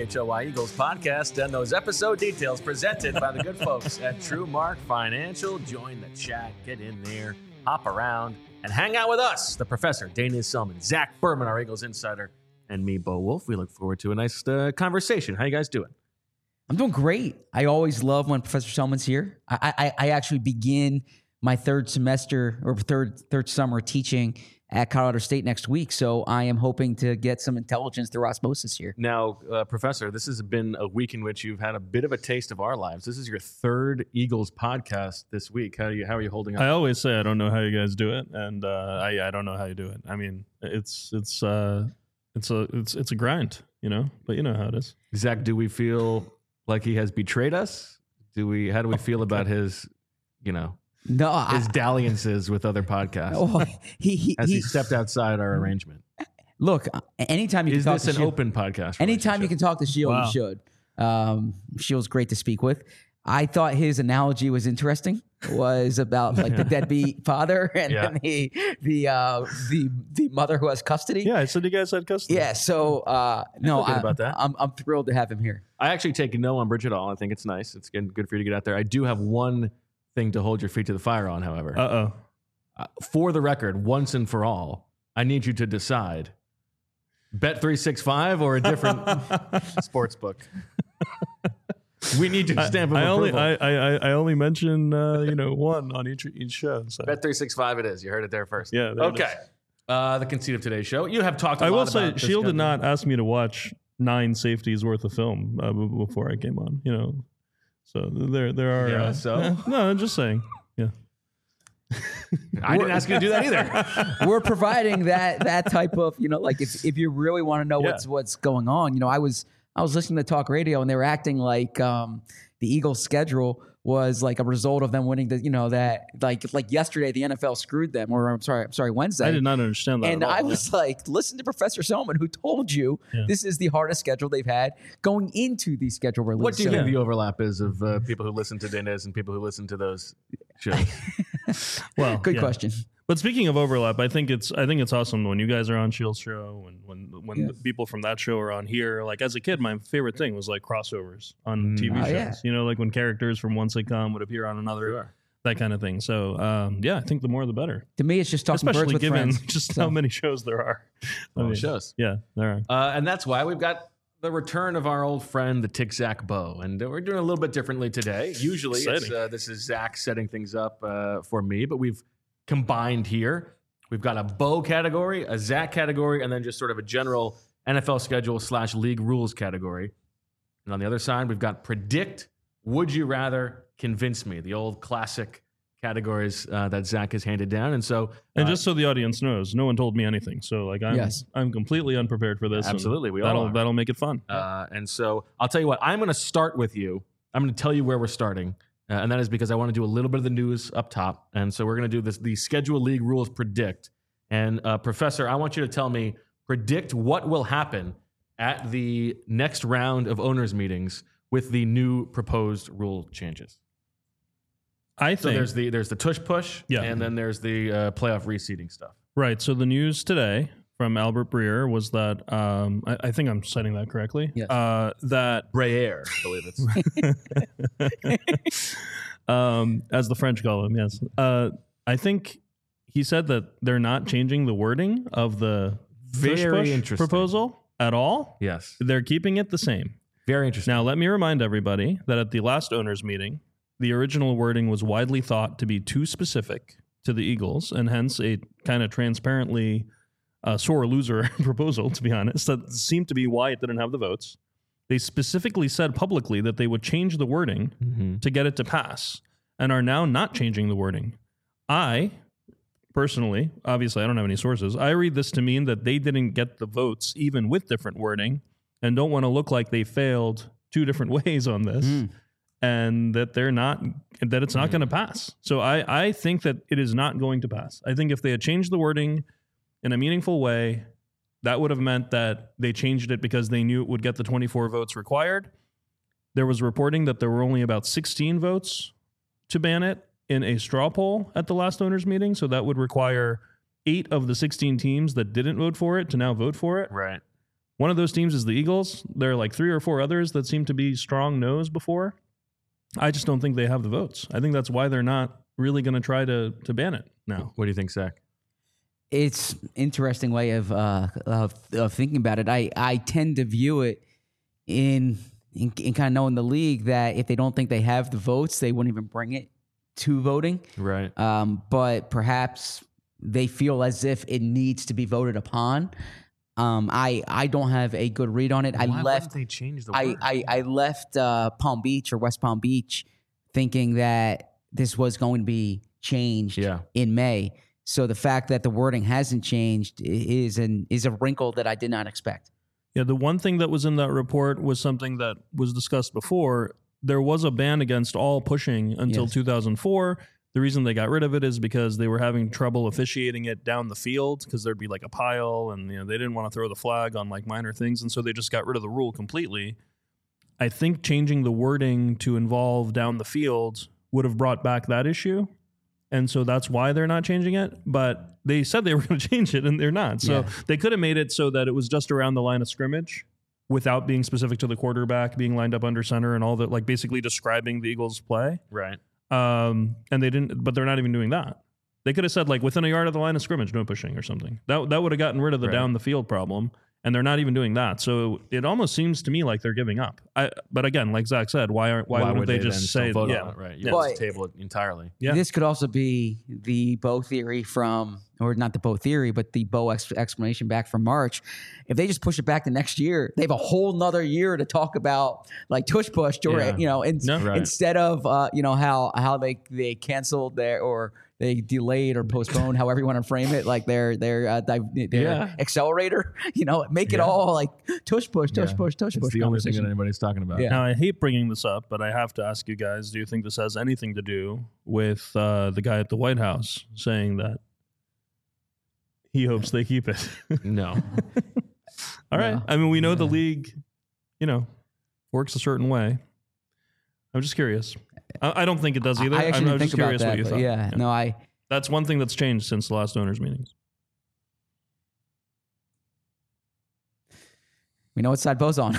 PHLY Eagles podcast and those episode details presented by the good folks at TrueMark Financial. Join the chat, get in there, hop around, and hang out with us, the professor, Dana Selman, Zach Berman, our Eagles insider, and me, Bo Wolf. We look forward to a nice conversation. How you guys doing? I'm doing great. I always love when Professor Selman's here. I actually begin my third semester or third summer teaching at Colorado State next week, so I am hoping to get some intelligence through osmosis here. Now, Professor, this has been a week in which you've had a bit of a taste of our lives. This is your third Eagles podcast this week. How are you holding up? I always say I don't know how you guys do it, and I don't know how you do it. I mean, it's a grind, but you know how it is. Zach, do we feel like he has betrayed us? How do we feel about his, his dalliances with other podcasts? He stepped outside our arrangement? Look, anytime you can talk to Is this an open podcast? Anytime you can talk to Shield, Wow. you should. Shield's great to speak with. I thought his analogy was interesting. Was about like the deadbeat father and then the mother who has custody. Yeah, I said you guys had custody. Yeah, so about that. I'm thrilled to have him here. I actually take no umbrage at all. I think it's nice. It's good for you to get out there. I do have one thing to hold your feet to the fire on, however. For the record, once and for all, I need you to decide: Bet365 or a different sports book. We need your stamp of approval. I only mention one on each show. So. Bet365 it is. You heard it there first. Yeah. Okay. The conceit of today's show. You have talked a lot I will about say, this Shield did company. not ask me to watch 9 safeties worth of film before I came on. So there are. Yeah, so? No, I'm just saying. Yeah. I didn't ask you to do that either. We're providing that type of like if you really want to know what's going on. I was listening to talk radio and they were acting like the Eagles' schedule was like a result of them winning that like yesterday the NFL screwed them, or I'm sorry Wednesday. I did not understand that. And at all. I was like, listen to Professor Selman, who told you this is the hardest schedule they've had going into the schedule release. What do you think the overlap is of people who listen to Dana's and people who listen to those shows? Well, good question. But speaking of overlap, I think it's awesome when you guys are on Shield's show and when the people from that show are on here. Like as a kid, my favorite thing was like crossovers on TV shows. Yeah. Like when characters from one sitcom would appear on another, that kind of thing. So I think the more the better. To me, it's just talking especially birds with given friends. just how many shows there are. Shows. Yeah, there are. And that's why we've got the return of our old friend, the Tic Zach Bo. And we're doing a little bit differently today. Usually this is Zach setting things up for me, but we've combined here. We've got a Bo category, a Zach category, and then just sort of a general NFL schedule / league rules category. And on the other side, we've got predict, would you rather, convince me, the old classic categories that Zach has handed down. And so, just so the audience knows, no one told me anything. So like I'm completely unprepared for this. Absolutely, we all all are. That'll make it fun. And so I'll tell you what, I'm going to start with you. I'm going to tell you where we're starting. And that is because I want to do a little bit of the news up top. And so we're going to do the schedule league rules predict. And Professor, I want you to tell me, predict what will happen at the next round of owners meetings with the new proposed rule changes. I think so there's the tush push, and then there's the playoff reseeding stuff. Right. So the news today from Albert Breer was that I think I'm citing that correctly. Yes. That Breer, I believe it's as the French call him. Yes. I think he said that they're not changing the wording of the very interesting proposal at all. Yes. They're keeping it the same. Very interesting. Now, let me remind everybody that at the last owners meeting, the original wording was widely thought to be too specific to the Eagles, and hence a kind of transparently sore loser proposal, to be honest. That seemed to be why it didn't have the votes. They specifically said publicly that they would change the wording to get it to pass, and are now not changing the wording. I, personally, obviously I don't have any sources, I read this to mean that they didn't get the votes even with different wording and don't want to look like they failed 2 different ways on this. And that it's not going to pass. So I think that it is not going to pass. I think if they had changed the wording in a meaningful way, that would have meant that they changed it because they knew it would get the 24 votes required. There was reporting that there were only about 16 votes to ban it in a straw poll at the last owners meeting. So that would require 8 of the 16 teams that didn't vote for it to now vote for it. Right. One of those teams is the Eagles. There are like 3 or 4 others that seem to be strong no's before. I just don't think they have the votes. I think that's why they're not really going to try to ban it now. What do you think, Zach? It's interesting way of thinking about it. I tend to view it in kind of knowing the league that if they don't think they have the votes, they wouldn't even bring it to voting. Right. But perhaps they feel as if it needs to be voted upon. I don't have a good read on it. Why wouldn't they change the word? I left Palm Beach or West Palm Beach thinking that this was going to be changed in May. So the fact that the wording hasn't changed is a wrinkle that I did not expect. Yeah, the one thing that was in that report was something that was discussed before. There was a ban against all pushing until 2004. The reason they got rid of it is because they were having trouble officiating it down the field because there'd be like a pile and they didn't want to throw the flag on like minor things. And so they just got rid of the rule completely. I think changing the wording to involve down the field would have brought back that issue. And so that's why they're not changing it. But they said they were going to change it and they're not. So they could have made it so that it was just around the line of scrimmage without being specific to the quarterback being lined up under center and all that, like basically describing the Eagles' play. Right. And they didn't, but they're not even doing that. They could have said like within a yard of the line of scrimmage, no pushing or something. That would have gotten rid of the down the field problem. And they're not even doing that. So it almost seems to me like they're giving up. But again, like Zach said, why wouldn't they just say vote on it? Right? You just table it entirely. Yeah. This could also be the Bo theory or not the Bo theory, but the Bo explanation back from March. If they just push it back to next year, they have a whole nother year to talk about like tush push, or instead of how they canceled or they delayed or postponed, however you want to frame it, like their accelerator, make it all like tush push. It's the only thing that anybody's talking about. Yeah. Now, I hate bringing this up, but I have to ask you guys, do you think this has anything to do with the guy at the White House saying that he hopes they keep it? No. All right. I mean, we know the league, works a certain way. I'm just curious. I don't think it does either. I'm just curious what you thought. That's one thing that's changed since the last owners' meetings. We know what side Bo's on.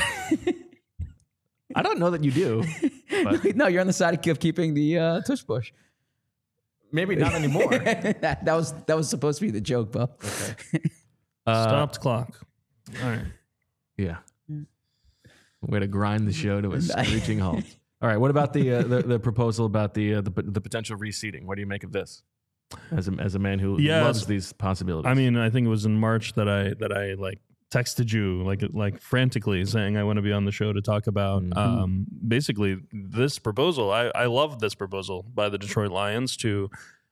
I don't know that you do. But no, you're on the side of keeping the tush push. Maybe not anymore. that was supposed to be the joke, Bo. Okay. Stopped clock. All right. Yeah. Way to grind the show to a screeching halt. All right. What about the proposal about the potential reseeding? What do you make of this? As a man who loves these possibilities. I mean, I think it was in March that I like texted you like frantically saying I want to be on the show to talk about basically this proposal. I love this proposal by the Detroit Lions to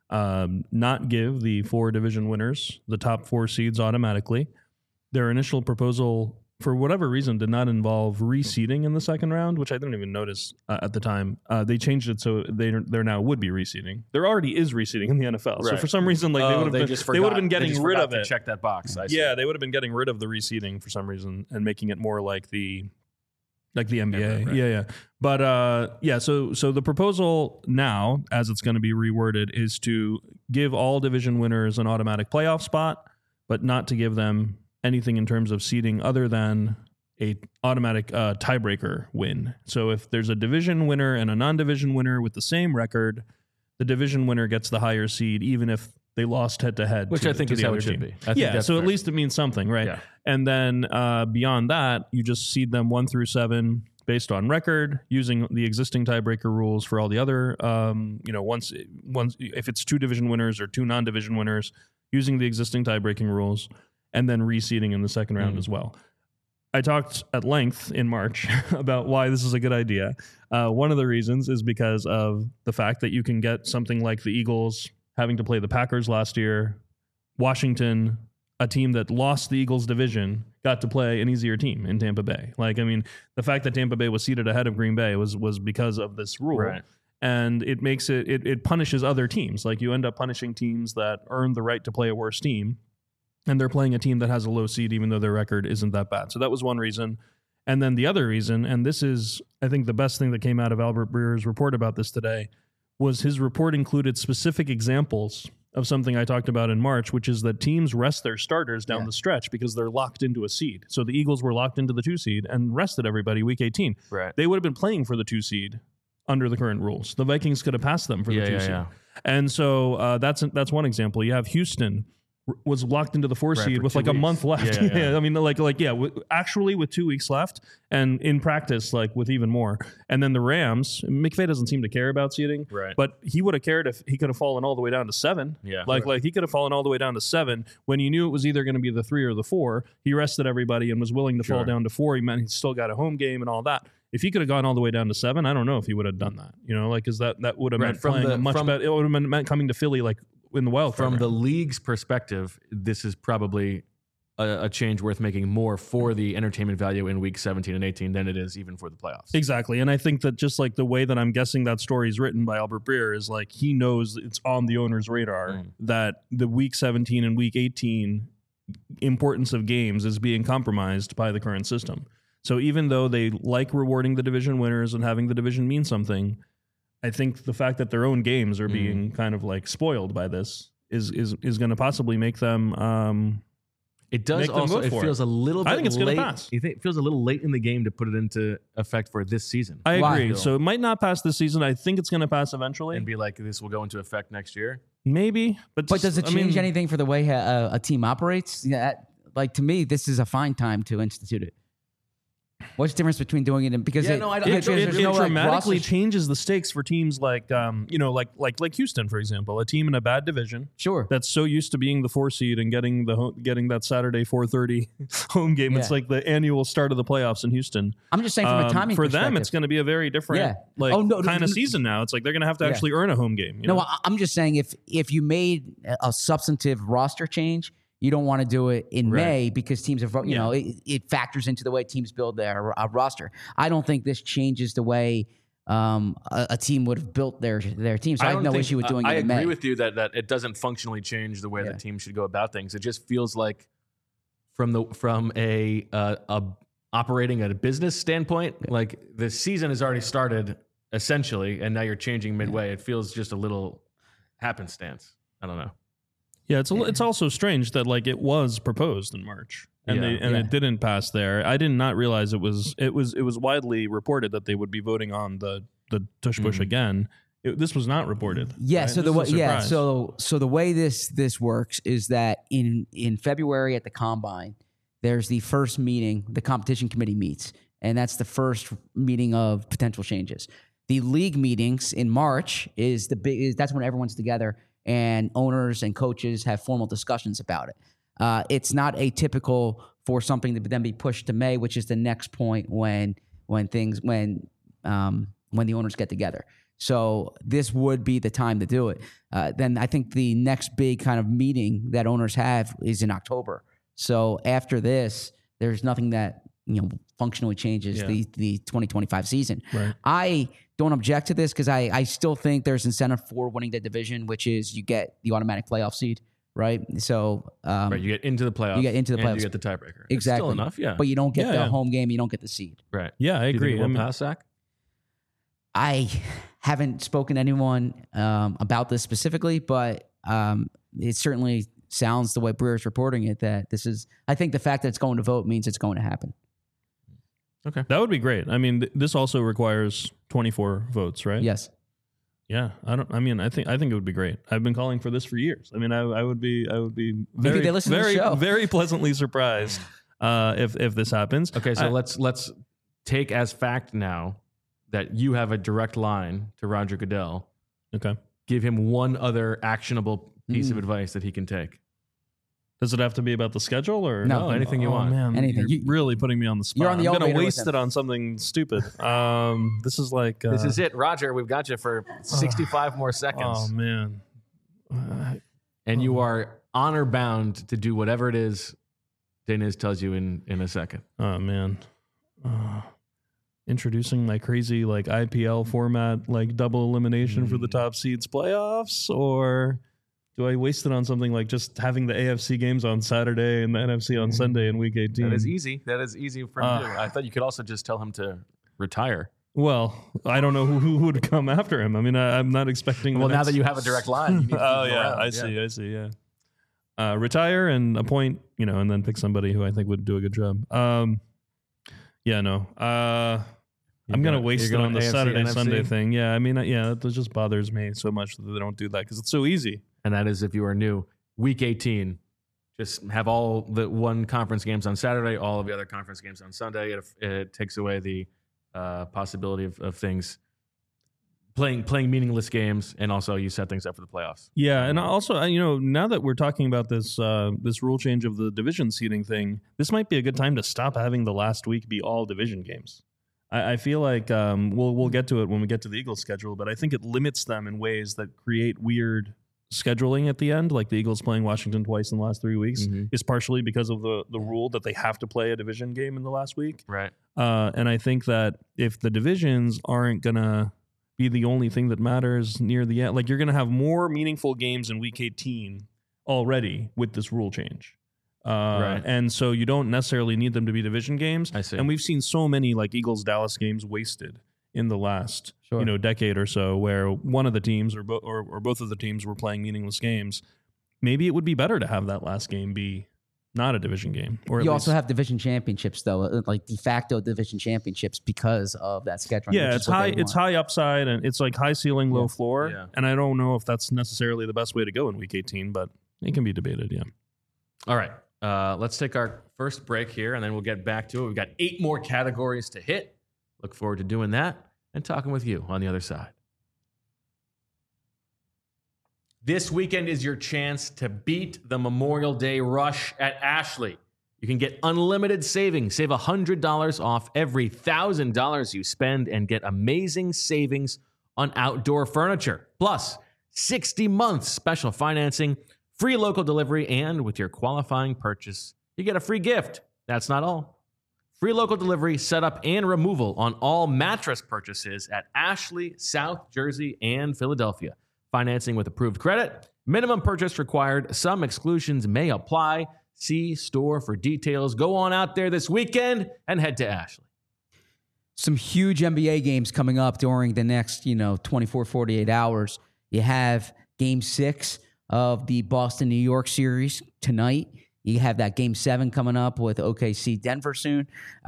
not give the 4 division winners the top 4 seeds automatically. Their initial proposal, for whatever reason, did not involve reseeding in the second round, which I didn't even notice at the time. They changed it so there now would be reseeding. There already is reseeding in the NFL. Right. So for some reason, like they would have been getting rid of it. Check that box. They would have been getting rid of the reseeding for some reason and making it more like the NBA. Right. Yeah. But so the proposal now, as it's going to be reworded, is to give all division winners an automatic playoff spot, but not to give them anything in terms of seeding other than a automatic tiebreaker win. So if there's a division winner and a non-division winner with the same record, the division winner gets the higher seed, even if they lost head-to-head. Which I think is how it should be. So fair. At least it means something, right? Yeah. And then beyond that, you just seed them 1 through 7 based on record, using the existing tiebreaker rules for all the other, once if it's 2 division winners or 2 non-division winners, using the existing tiebreaking rules, and then reseeding in the second round as well. I talked at length in March about why this is a good idea. One of the reasons is because of the fact that you can get something like the Eagles having to play the Packers last year. Washington, a team that lost the Eagles division, got to play an easier team in Tampa Bay. The fact that Tampa Bay was seated ahead of Green Bay was because of this rule. Right. And it makes it punishes other teams. Like you end up punishing teams that earn the right to play a worse team. And they're playing a team that has a low seed, even though their record isn't that bad. So that was one reason. And then the other reason, and this is, I think, the best thing that came out of Albert Breer's report about this today, was his report included specific examples of something I talked about in March, which is that teams rest their starters down the stretch because they're locked into a seed. So the Eagles were locked into the 2 seed and rested everybody week 18. Right. They would have been playing for the 2 seed under the current rules. The Vikings could have passed them for the 2 seed. Yeah. And so that's one example. You have Houston was locked into the 4 seed with like a month left. I mean, actually with 2 weeks left, and in practice, like with even more. And then the Rams, McVay doesn't seem to care about seeding, right? But he would have cared if he could have fallen all the way down to 7. Yeah, like he could have fallen all the way down to 7 when you knew it was either going to be the 3 or the 4. He rested everybody and was willing to fall down to 4. He meant he still got a home game and all that. If he could have gone all the way down to 7, I don't know if he would have done that. You know, like because that would have meant playing much better. It would have meant coming to Philly like in the wild card. From the league's perspective, this is probably a change worth making more for the entertainment value in week 17 and 18 than it is even for the playoffs. Exactly. And I think that just like the way that I'm guessing that story is written by Albert Breer is like he knows it's on the owner's radar that the week 17 and week 18 importance of games is being compromised by the current system. So even though they like rewarding the division winners and having the division mean something, I think the fact that their own games are being kind of like spoiled by this is going to possibly make them. It does also. It feels a little bit. I think it's going to pass. You think it feels a little late in the game to put it into effect for this season? I agree. So it might not pass this season. I think it's going to pass eventually, and be like this will go into effect next year. Maybe, but does it change anything for the way a team operates? Yeah, like to me, this is a fine time to institute it. What's the difference between doing it and because it dramatically changes the stakes for teams like like Houston, for example, a team in a bad division, that's so used to being the 4 seed and getting that Saturday 4:30 home game. It's like the annual start of the playoffs in Houston. I'm just saying from a timing for them, it's going to be a very different kind of season now. It's like they're going to have to actually earn a home game. You know? I'm just saying if you made a substantive roster change. You don't want to do it in May because teams have, it factors into the way teams build their roster. I don't think this changes the way a team would have built their team. So I have no issue with doing it in May. I agree with you that it doesn't functionally change the way the team should go about things. It just feels like from a operating at a business standpoint, like the season has already started essentially, and now you're changing midway. It feels just a little happenstance. I don't know. Yeah, it's also strange that like it was proposed in March and it didn't pass there. I did not realize it was widely reported that they would be voting on the tush push again. This was not reported. Yeah, right? so the way this works is that in February at the Combine, there's the first meeting, the competition committee meets, and that's the first meeting of potential changes. The league meetings in March that's when everyone's together. And owners and coaches have formal discussions about it. It's not atypical for something to then be pushed to May, which is the next point when the owners get together. So this would be the time to do it. Then I think the next big kind of meeting that owners have is in October. So after this, there's nothing that functionally changes the 2025 season. Right. I don't object to this because I still think there's incentive for winning the division, which is you get the automatic playoff seed, right? So you get into the playoffs. You get into the playoffs. And you get the tiebreaker. Exactly. It's still enough, But you don't get the home game. You don't get the seed. Right. Yeah, I agree. Do you think it will pass, Zach? I haven't spoken to anyone about this specifically, but it certainly sounds the way Breer's reporting it that this is. I think the fact that it's going to vote means it's going to happen. Okay, that would be great. I mean, this also requires 24 votes, right? Yes. Yeah, I think it would be great. I've been calling for this for years. I mean, I would be Maybe they listen to the show. Very pleasantly surprised if this happens. Okay, so let's take as fact now that you have a direct line to Roger Goodell. Okay, give him one other actionable piece of advice that he can take. Does it have to be about the schedule or no? Anything you want. Man, anything. You're really putting me on the spot. You're on the I'm going to waste it on something stupid. This is like this is it, Roger. We've got you for 65 more seconds. Oh man! And you are honor bound to do whatever it is Deniz tells you in a second. Oh man! Introducing my crazy like IPL format, like double elimination for the top seeds playoffs, or do I waste it on something like just having the AFC games on Saturday and the NFC on Sunday in Week 18? That is easy. That is easy for him to do. I thought you could also just tell him to retire. Well, I don't know who would come after him. I mean, I'm not expecting. Well, now that you have a direct line, you need to keep him around. I see. Yeah. Retire and appoint, and then pick somebody who I think would do a good job. I'm going to waste it on the AFC, Saturday, NFC? Sunday thing. Yeah, I mean, that just bothers me so much that they don't do that because it's so easy. And that is if you are new. Week 18, just have all the one conference games on Saturday, all of the other conference games on Sunday. It takes away the possibility of things playing meaningless games, and also you set things up for the playoffs. Yeah, and also, now that we're talking about this rule change of the division seeding thing, this might be a good time to stop having the last week be all division games. I feel like we'll get to it when we get to the Eagles schedule, but I think it limits them in ways that create weird scheduling at the end, like the Eagles playing Washington twice in the last 3 weeks, is partially because of the rule that they have to play a division game in the last week. Right. And I think that if the divisions aren't going to be the only thing that matters near the end, like you're going to have more meaningful games in week 18 already with this rule change. Right. And so you don't necessarily need them to be division games. I see. And we've seen so many like Eagles-Dallas games wasted in the last decade or so, where one of the teams or both of the teams were playing meaningless games. Maybe it would be better to have that last game be not a division game. Or you also have division championships, though, like de facto division championships because of that scheduling. Yeah, it's high. It's high upside and it's like high ceiling, low floor. Yeah. And I don't know if that's necessarily the best way to go in week 18, but it can be debated. Yeah. All right. Let's take our first break here, and then we'll get back to it. We've got 8 more categories to hit. Look forward to doing that and talking with you on the other side. This weekend is your chance to beat the Memorial Day rush at Ashley. You can get unlimited savings. Save $100 off every $1,000 you spend and get amazing savings on outdoor furniture. Plus, 60 months special financing, free local delivery, and with your qualifying purchase, you get a free gift. That's not all. Free local delivery, setup, and removal on all mattress purchases at Ashley, South Jersey, and Philadelphia. Financing with approved credit. Minimum purchase required. Some exclusions may apply. See store for details. Go on out there this weekend and head to Ashley. Some huge NBA games coming up during the next, 24, 48 hours. You have Game 6 of the Boston-New York series tonight. You have that Game 7 coming up with OKC Denver soon.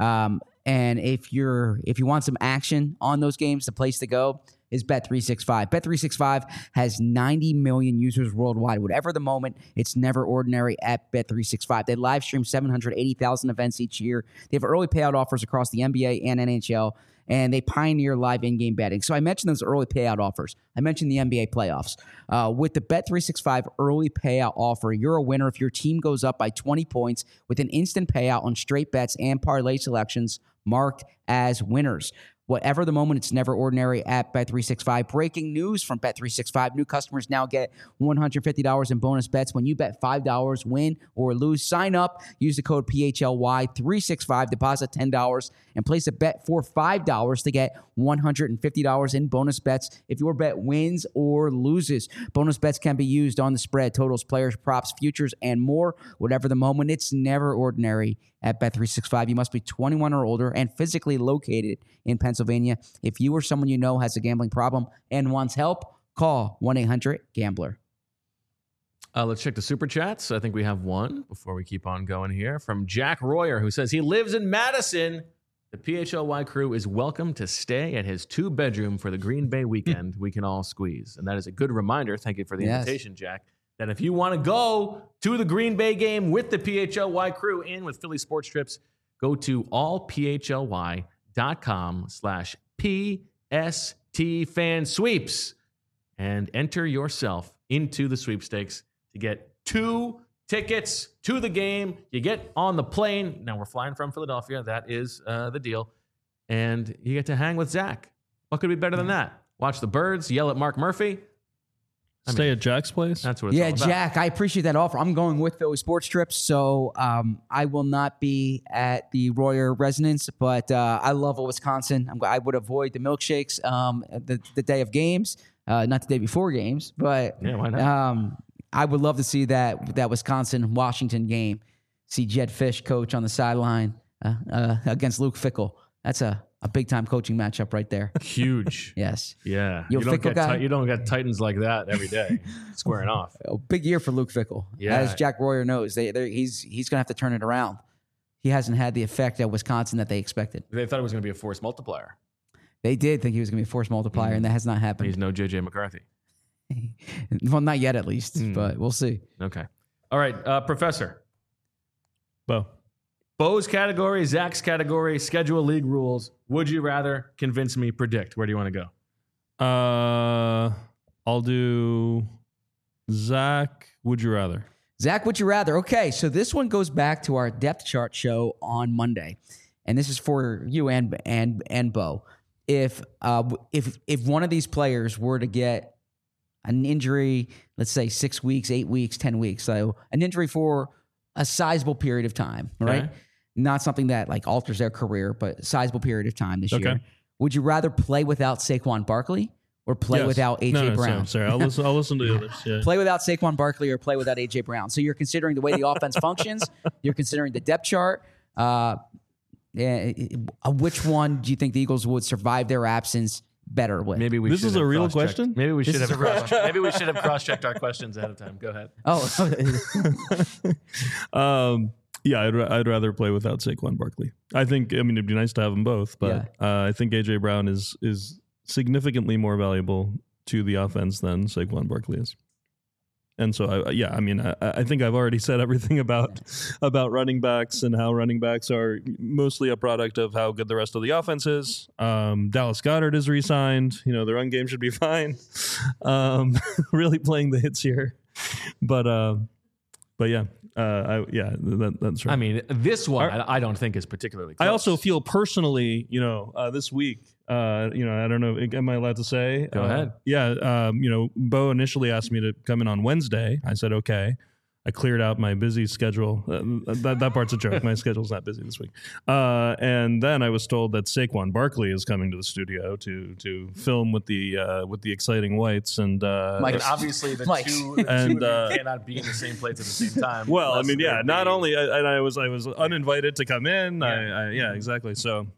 And if you want some action on those games, the place to go is Bet365. Bet365 has 90 million users worldwide. Whatever the moment, it's never ordinary at Bet365. They live stream 780,000 events each year. They have early payout offers across the NBA and NHL, and they pioneer live in-game betting. So I mentioned those early payout offers. I mentioned the NBA playoffs. With the Bet365 early payout offer, you're a winner if your team goes up by 20 points with an instant payout on straight bets and parlay selections marked as winners. Whatever the moment, it's never ordinary at Bet365. Breaking news from Bet365. New customers now get $150 in bonus bets when you bet $5, win or lose. Sign up, use the code PHLY365, deposit $10, and place a bet for $5 to get $150 in bonus bets if your bet wins or loses. Bonus bets can be used on the spread, totals, players, props, futures, and more. Whatever the moment, it's never ordinary at Bet365. You must be 21 or older and physically located in Pennsylvania. If you or someone you know has a gambling problem and wants help, call 1-800-GAMBLER. Let's check the super chats. I think we have one before we keep on going here from Jack Royer, who says he lives in Madison. The PHLY crew is welcome to stay at his 2-bedroom for the Green Bay weekend we can all squeeze. And that is a good reminder. Thank you for the invitation, Jack. That if you want to go to the Green Bay game with the PHLY crew and with Philly Sports Trips, go to allphly.com/PSTFansweeps and enter yourself into the sweepstakes to get 2 tickets to the game. You get on the plane. Now we're flying from Philadelphia. That is the deal. And you get to hang with Zach. What could be better than that? Watch the birds, yell at Mark Murphy. Stay at Jack's place? That's what it's all about. Jack, I appreciate that offer. I'm going with Philly Sports Trips, so I will not be at the Royer residence, but I love Wisconsin. I would avoid the milkshakes the day of games, not the day before games, but yeah, why not? I would love to see that Wisconsin-Washington game, see Jed Fish coach on the sideline against Luke Fickell. That's a a big time coaching matchup right there. Huge. Yes. Yeah. You don't get Titans like that every day squaring off. A big year for Luke Fickell. Yeah. As Jack Royer knows, he's going to have to turn it around. He hasn't had the effect at Wisconsin that they expected. They thought it was going to be a force multiplier. They did think he was going to be a force multiplier, and that has not happened. He's no J.J. McCarthy. Well, not yet, at least, but we'll see. Okay. All right, Professor. Bo. Bo's category, Zach's category, schedule league rules. Would you rather? Convince me, predict. Where do you want to go? I'll do Zach. Would you rather? Zach, would you rather? Okay, so this one goes back to our depth chart show on Monday, and this is for you and Bo. If one of these players were to get an injury, let's say 6 weeks, 8 weeks, 10 weeks, so an injury for a sizable period of time, right? Okay. Not something that like alters their career, but a sizable period of time this year. Would you rather play without Saquon Barkley or play without A.J. Brown? Sorry. I'll listen to the others. Yeah. Play without Saquon Barkley or play without A.J. Brown. So you're considering the way the offense functions. You're considering the depth chart. Which one do you think the Eagles would survive their absence better with? Maybe this is a real question. Maybe we should have cross-checked our questions ahead of time. Go ahead. Yeah, I'd rather play without Saquon Barkley. It'd be nice to have them both, but I think A.J. Brown is significantly more valuable to the offense than Saquon Barkley is. And so, I think I've already said everything about running backs and how running backs are mostly a product of how good the rest of the offense is. Dallas Goedert is re-signed. The run game should be fine. Really playing the hits here. But yeah, that's right. I mean, this one I don't think is particularly close. I also feel personally, this week, I don't know, am I allowed to say? Go ahead. Yeah, Bo initially asked me to come in on Wednesday. I said, okay. I cleared out my busy schedule. That part's a joke. My schedule's not busy this week. And then I was told that Saquon Barkley is coming to the studio to film with the exciting whites and obviously the two cannot be in the same place at the same time. Well, not only I was uninvited to come in. Yeah, exactly. So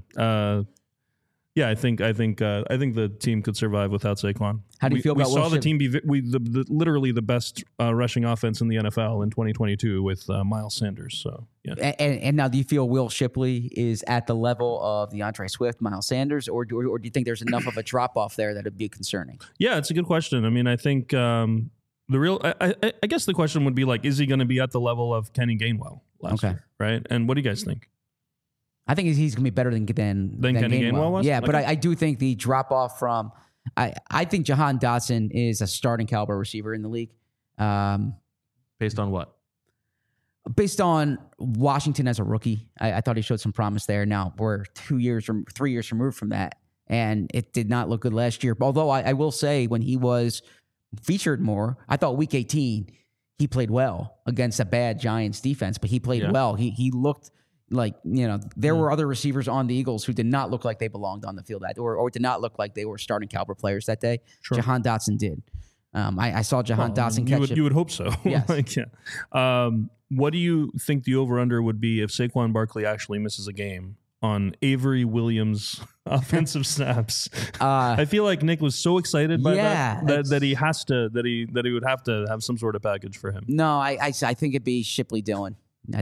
I think the team could survive without Saquon. How do you feel about we saw the team be literally the best rushing offense in the NFL in 2022 with Miles Sanders. So yeah. And now, do you feel Will Shipley is at the level of DeAndre Swift, Miles Sanders, or do you think there's enough of a drop off there that it'd be concerning? Yeah, it's a good question. I think I guess the question would be like, is he going to be at the level of Kenny Gainwell last year, right? And what do you guys think? I think he's going to be better than Kenny Gainwell was? Yeah, okay. But I do think the drop off from I think Jahan Dotson is a starting caliber receiver in the league. Based on what? Based on Washington as a rookie. I thought he showed some promise there. Now we're 3 years removed from that, and it did not look good last year. Although I will say when he was featured more, I thought week 18 he played well against a bad Giants defense, but he played well. He looked like, there were other receivers on the Eagles who did not look like they belonged on the field or did not look like they were starting caliber players that day. Sure. Jahan Dotson did. I saw Jahan Dotson catch it. You would hope so. Yes. What do you think the over-under would be if Saquon Barkley actually misses a game on Avery Williams offensive snaps? I feel like Nick was so excited by that he has to that he would have to have some sort of package for him. No, I think it'd be Shipley Dillon.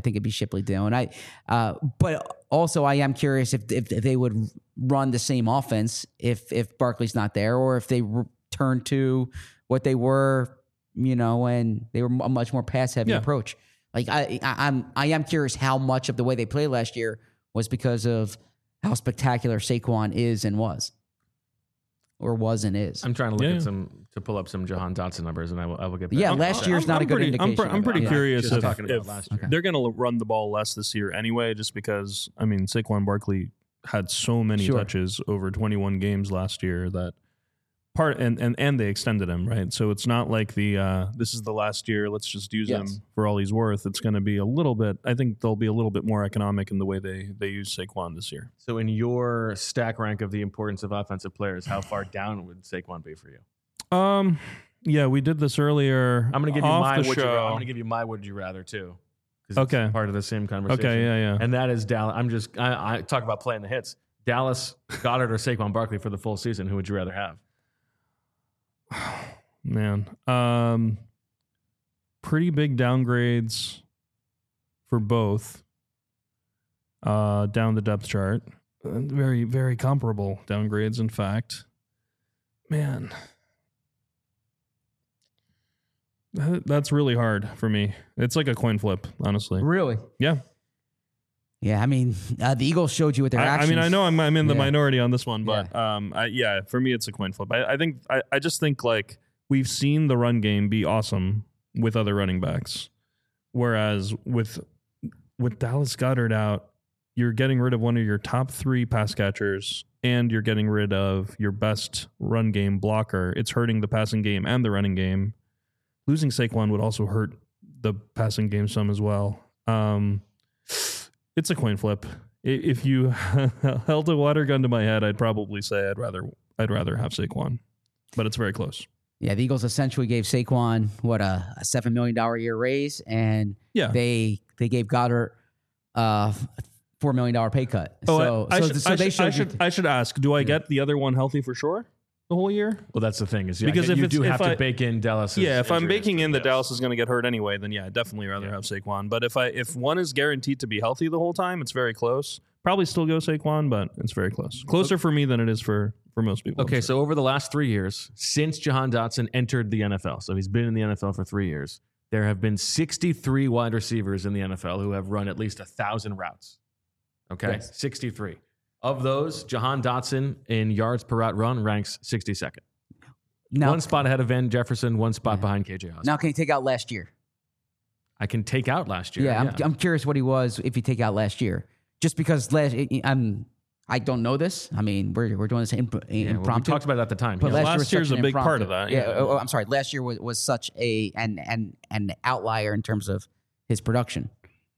But also I am curious if they would run the same offense if Barkley's not there, or if they return to what they were, when they were a much more pass heavy approach. Like I am curious how much of the way they played last year was because of how spectacular Saquon is and was. Or was and is. I'm trying to look at to pull up some Jahan Dotson numbers, and I will get back. Yeah, last year's not a good indication. I'm pretty curious if last year. They're going to run the ball less this year anyway, just because, Saquon Barkley had so many touches over 21 games last year that and they extended him, right? So it's not like this is the last year, let's just use him for all he's worth. It's going to be a little bit, I think they'll be a little bit more economic in the way they use Saquon this year. So in your stack rank of the importance of offensive players, how far down would Saquon be for you? Yeah, we did this earlier. I'm going to give you my would you rather. I'm going to give you my would you rather too. It's part of the same conversation. Okay, yeah. And that is Dallas. I talk about playing the hits. Dallas Goedert or Saquon Barkley for the full season, who would you rather have? Man, pretty big downgrades for both down the depth chart. Very, very comparable downgrades, in fact. Man, that's really hard for me. It's like a coin flip, honestly. Really? Yeah. Yeah, I mean, the Eagles showed you with their actions. I mean, I know I'm in the minority on this one, but for me, it's a coin flip. I just think like we've seen the run game be awesome with other running backs, whereas with Dallas Goedert out, you're getting rid of one of your top 3 pass catchers, and you're getting rid of your best run game blocker. It's hurting the passing game and the running game. Losing Saquon would also hurt the passing game some as well. It's a coin flip. If you held a water gun to my head, I'd probably say I'd rather have Saquon, but it's very close. Yeah, the Eagles essentially gave Saquon a $7 million a year raise, and they gave Goddard $4 million pay cut. I should ask: do I get the other one healthy for sure the whole year? Well, that's the thing is because if you do have to bake in Dallas. Yeah, if I'm baking in that Dallas is going to get hurt anyway, then I'd definitely rather have Saquon. But if one is guaranteed to be healthy the whole time, it's very close. Probably still go Saquon, but it's very close. Closer for me than it is for most people. Okay, so over the last 3 years, since Jahan Dotson entered the NFL, so he's been in the NFL for 3 years, there have been 63 wide receivers in the NFL who have run at least 1,000 routes. Okay, yes. 63. Of those, Jahan Dotson in yards per route run ranks 62nd. Now, one spot ahead of Van Jefferson, one spot behind KJ Osborne. Now, can you take out last year? I can take out last year. Yeah, I'm curious what he was if you take out last year. Just because I don't know this. I mean, we're doing this impromptu. Well, we talked about it at the time. But last year's a big part of that. Yeah. I'm sorry. Last year was such an outlier in terms of his production.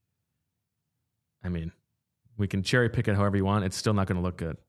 I mean, we can cherry pick it however you want. It's still not going to look good.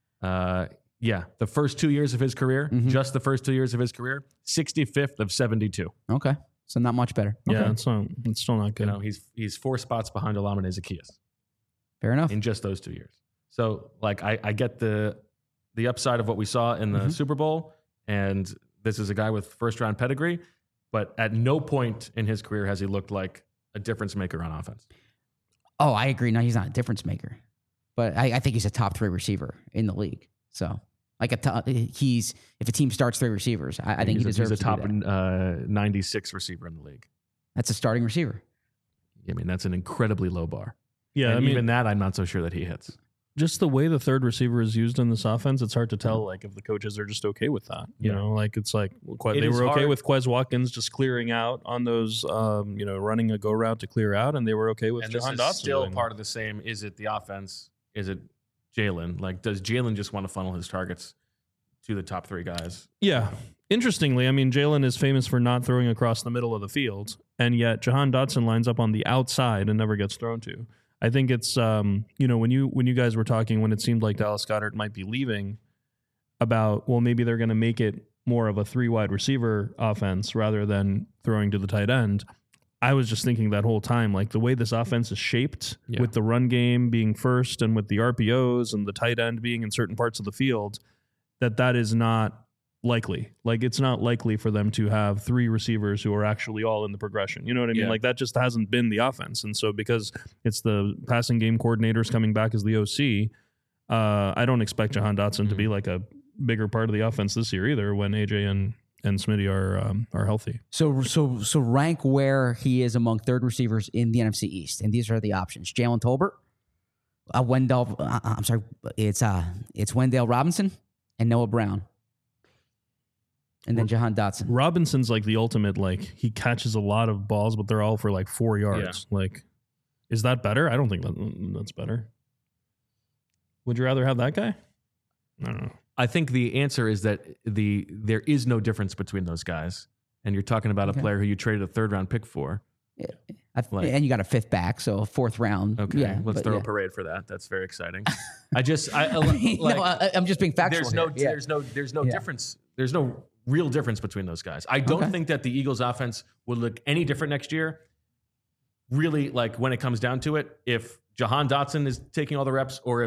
The first 2 years of his career, just the first 2 years of his career, 65th of 72. Okay, so not much better. Yeah, okay. It's still not good. You know, he's 4 spots behind Olamide Zaccheaus. Fair enough. In just those 2 years. So, like, I get the upside of what we saw in the Super Bowl, and this is a guy with first-round pedigree, but at no point in his career has he looked like a difference maker on offense. Oh, I agree. No, he's not a difference maker, but I think he's a top 3 receiver in the league. So, like if a team starts 3 receivers, I think he deserves. He's a top 96 receiver in the league. That's a starting receiver. I mean, that's an incredibly low bar. Yeah, and even that, I'm not so sure that he hits. Just the way the third receiver is used in this offense, it's hard to tell. Like if the coaches are just okay with that, you know, like it's like they were okay with Quez Watkins just clearing out on those, running a go route to clear out, and they were okay with Jahan Dotson. Still part of the same. Is it the offense? Is it Jalen? Like, does Jalen just want to funnel his targets to the top 3 guys? Yeah. Interestingly, I mean, Jalen is famous for not throwing across the middle of the field, and yet Jahan Dotson lines up on the outside and never gets thrown to. I think it's, when you guys were talking, when it seemed like Dallas Goedert might be leaving, about, well, maybe they're going to make it more of a 3 wide receiver offense rather than throwing to the tight end. I was just thinking that whole time, like the way this offense is shaped with the run game being first and with the RPOs and the tight end being in certain parts of the field, that is not likely. Like it's not likely for them to have 3 receivers who are actually all in the progression. You know what I mean? Yeah. Like that just hasn't been the offense. And so because it's the passing game coordinators coming back as the OC, I don't expect Jahan Dotson to be like a bigger part of the offense this year either when AJ and Smitty are healthy. So rank where he is among third receivers in the NFC East. And these are the options. Jalen Tolbert, it's Wendell Robinson and Noah Brown. And then Jahan Dotson. Robinson's like the ultimate, like he catches a lot of balls, but they're all for like 4 yards. Yeah. Like, is that better? I don't think that's better. Would you rather have that guy? I don't know. I think the answer is that there is no difference between those guys. And you're talking about a player who you traded a 3rd-round pick for. Yeah. And you got a 5th back, so a 4th round. Okay, yeah, let's throw a parade for that. That's very exciting. I'm just being factual. There's no difference. There's no real difference between those guys. I don't think that the Eagles offense would look any different next year. Really, like when it comes down to it, if Jahan Dotson is taking all the reps or if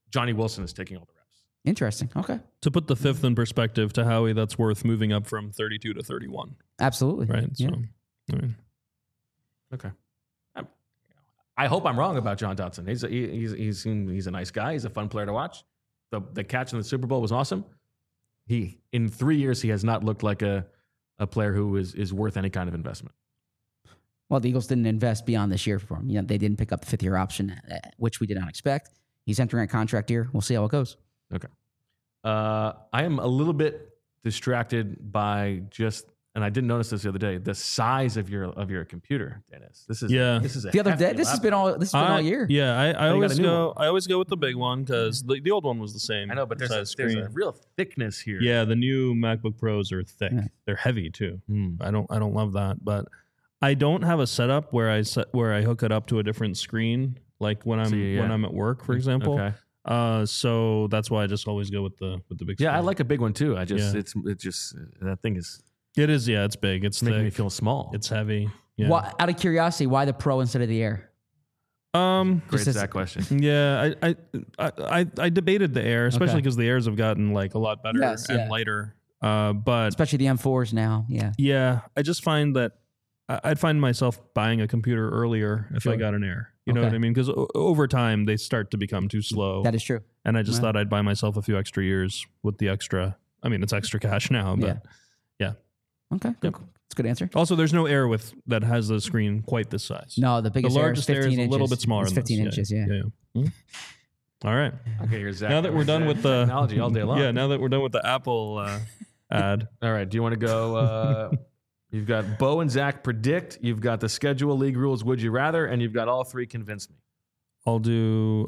Johnny Wilson is taking all the reps. Interesting. Okay. To put the fifth in perspective to Howie, that's worth moving up from 32 to 31. Absolutely. Right. Yeah. So, I mean, Okay. I hope I'm wrong about John Dotson. He's a nice guy. He's a fun player to watch. The catch in the Super Bowl was awesome. In 3 years, he has not looked like a player who is worth any kind of investment. Well, the Eagles didn't invest beyond this year for him. They didn't pick up the fifth-year option, which we did not expect. He's entering a contract year. We'll see how it goes. Okay. I am a little bit distracted by and I didn't notice this the other day, the size of your computer, Dennis. This is a the other day. hefty This has been all year. Yeah, I always go with the big one because the old one was the same. I know, but there's a real thickness here. Yeah, the new MacBook Pros are thick. Yeah. They're heavy too. I don't love that, but I don't have a setup where I hook it up to a different screen, like when I'm at work, for example. Okay. So that's why I just always go with the big screen. Yeah, I like a big one too. It's just that thing is. It is, yeah. It's big. It's making thick. Me feel small. It's heavy. Yeah. Well, out of curiosity, why the Pro instead of the Air? Great that question. Yeah, I debated the Air, especially because the Airs have gotten like a lot better and lighter. But especially the M4s now. Yeah. Yeah, I just find that I'd find myself buying a computer earlier if I got an Air. You know what I mean? Because over time they start to become too slow. That is true. And I just thought I'd buy myself a few extra years with the extra. I mean, it's extra cash now, but yeah. Okay, good. That's a good answer. Also, there's no Air that has the screen quite this size. No, the biggest Largest Air is 15 Air is inches. a little bit smaller. It's 15 inches. Yeah. All right. Okay, here's Zach. Now that we're done with the technology all day long. Yeah. Now that we're done with the Apple ad. All right. Do you want to go? You've got Bo and Zach predict. You've got the schedule, league rules. Would you rather? And you've got all three convince me. I'll do.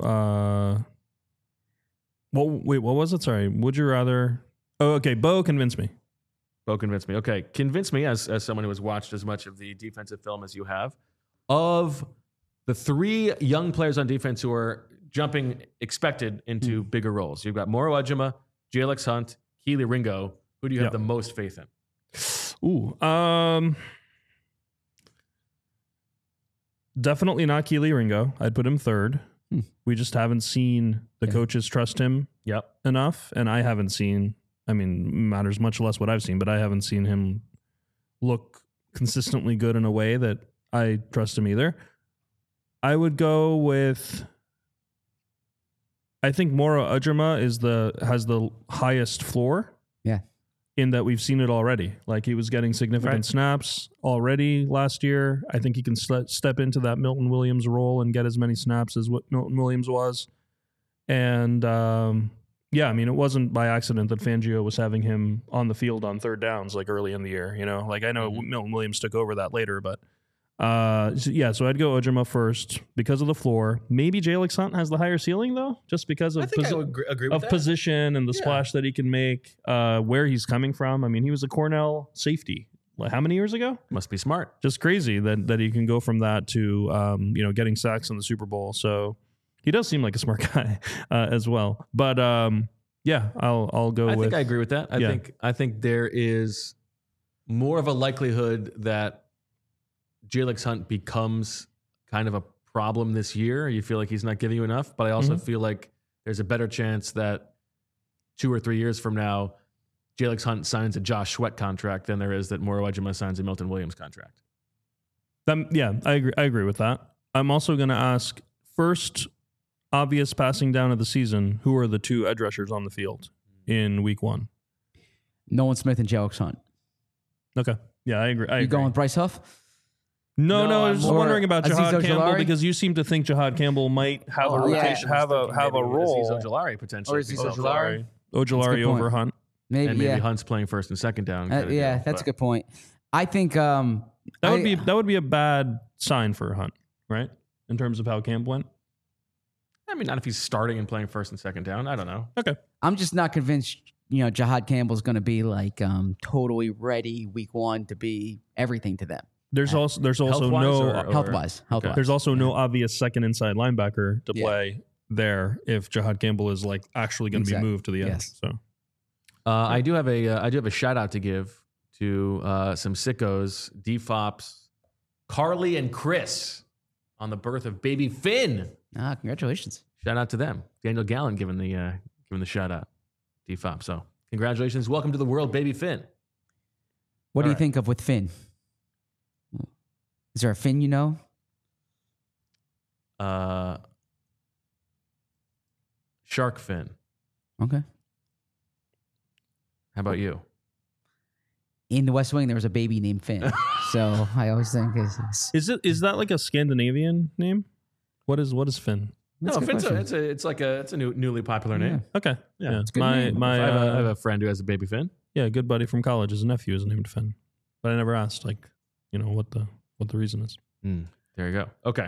Wait. What was it? Sorry. Would you rather? Oh, okay. Bo, convince me. Bo convinced me. Okay, convince me as someone who has watched as much of the defensive film as you have, of the three young players on defense who are jumping expected into bigger roles. You've got Moro Ejima, Jalex Hunt, Kelee Ringo. Who do you have the most faith in? Definitely not Kelee Ringo. I'd put him third. We just haven't seen the coaches trust him enough, and I haven't seen. I mean, matters much less what I've seen, but I haven't seen him look consistently good in a way that I trust him either. I would go with. I think Moro Ejima has the highest floor. Yeah. In that we've seen it already. Like he was getting significant snaps already last year. I think he can step into that Milton Williams role and get as many snaps as what Milton Williams was. And yeah, I mean, it wasn't by accident that Fangio was having him on the field on third downs like early in the year. You know, like I know Milton Williams took over that later, but so I'd go Ejima first because of the floor. Maybe Jalex Hunt has the higher ceiling though, just because of I would agree with that. Position and the splash that he can make, where he's coming from. I mean, he was a Cornell safety. Like, how many years ago? Must be smart. Just crazy that he can go from that to getting sacks in the Super Bowl. So he does seem like a smart guy as well. But I'll go with. I think I agree with that. I think there is more of a likelihood that Jalex Hunt becomes kind of a problem this year. You feel like he's not giving you enough, but I also feel like there's a better chance that 2 or 3 years from now, Jalex Hunt signs a Josh Sweat contract than there is that Moro Ejima signs a Milton Williams contract. I agree with that. I'm also going to ask first, obvious passing down of the season, who are the two edge rushers on the field in week 1? Nolan Smith and Jalex Hunt. Okay. Yeah, I agree. You going with Bryce Huff? No, I was just wondering about Jahad Campbell Ojulari? because you seem to think Jahad Campbell might have a rotation, have a role. Azeez Ojulari potentially. Or Azeez Ojulari? Ojulari over Hunt. Maybe Hunt's playing first and second down. That's a good point. I think that would be a bad sign for Hunt, right? In terms of how camp went. I mean, not if he's starting and playing first and second down. I don't know. Okay. I'm just not convinced. Jahad Campbell's going to be like totally ready week 1 to be everything to them. There's also health-wise. There's also no obvious second inside linebacker to play there if Jahad Campbell is like actually going to be moved to the edge. Yes. So I do have a shout out to give to some sickos, DFOPs, Carly and Chris on the birth of baby Finn. Congratulations. Shout out to them. Daniel Gallen giving the shout out. DFOP. So congratulations. Welcome to the world, baby Finn. What do you think of with Finn? Is there a Finn you know? Shark Fin. Okay. How about you? In the West Wing, there was a baby named Finn. So I always think is that like a Scandinavian name? What is Finn? No, Finn's it's a newly popular name. Okay, yeah. It's a good name. I have a friend who has a baby Finn. Yeah, a good buddy from college. His nephew is named Finn, but I never asked what the reason is. There you go. Okay.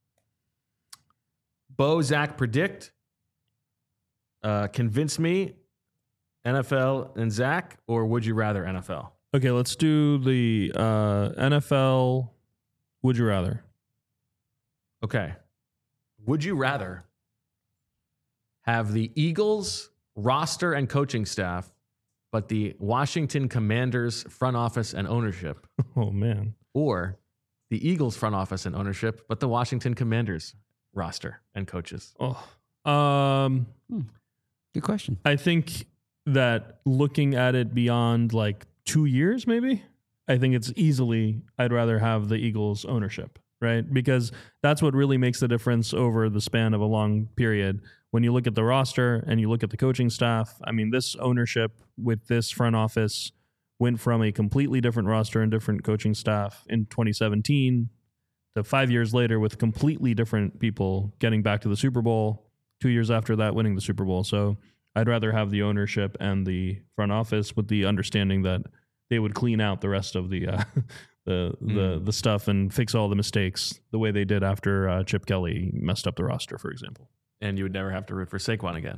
Bo, Zach, predict. Convince me, NFL and Zach, or would you rather NFL? Okay, let's do the NFL. Would you rather? Okay. Would you rather have the Eagles roster and coaching staff, but the Washington Commanders front office and ownership? Oh, man. Or the Eagles front office and ownership, but the Washington Commanders roster and coaches? Good question. I think that looking at it beyond like 2 years, maybe, I think it's easily, I'd rather have the Eagles ownership, right? Because that's what really makes the difference over the span of a long period. When you look at the roster and you look at the coaching staff, I mean, this ownership with this front office went from a completely different roster and different coaching staff in 2017 to 5 years later with completely different people getting back to the Super Bowl, 2 years after that winning the Super Bowl. So I'd rather have the ownership and the front office with the understanding that they would clean out the rest of the stuff and fix all the mistakes the way they did after Chip Kelly messed up the roster, for example. And you would never have to root for Saquon again.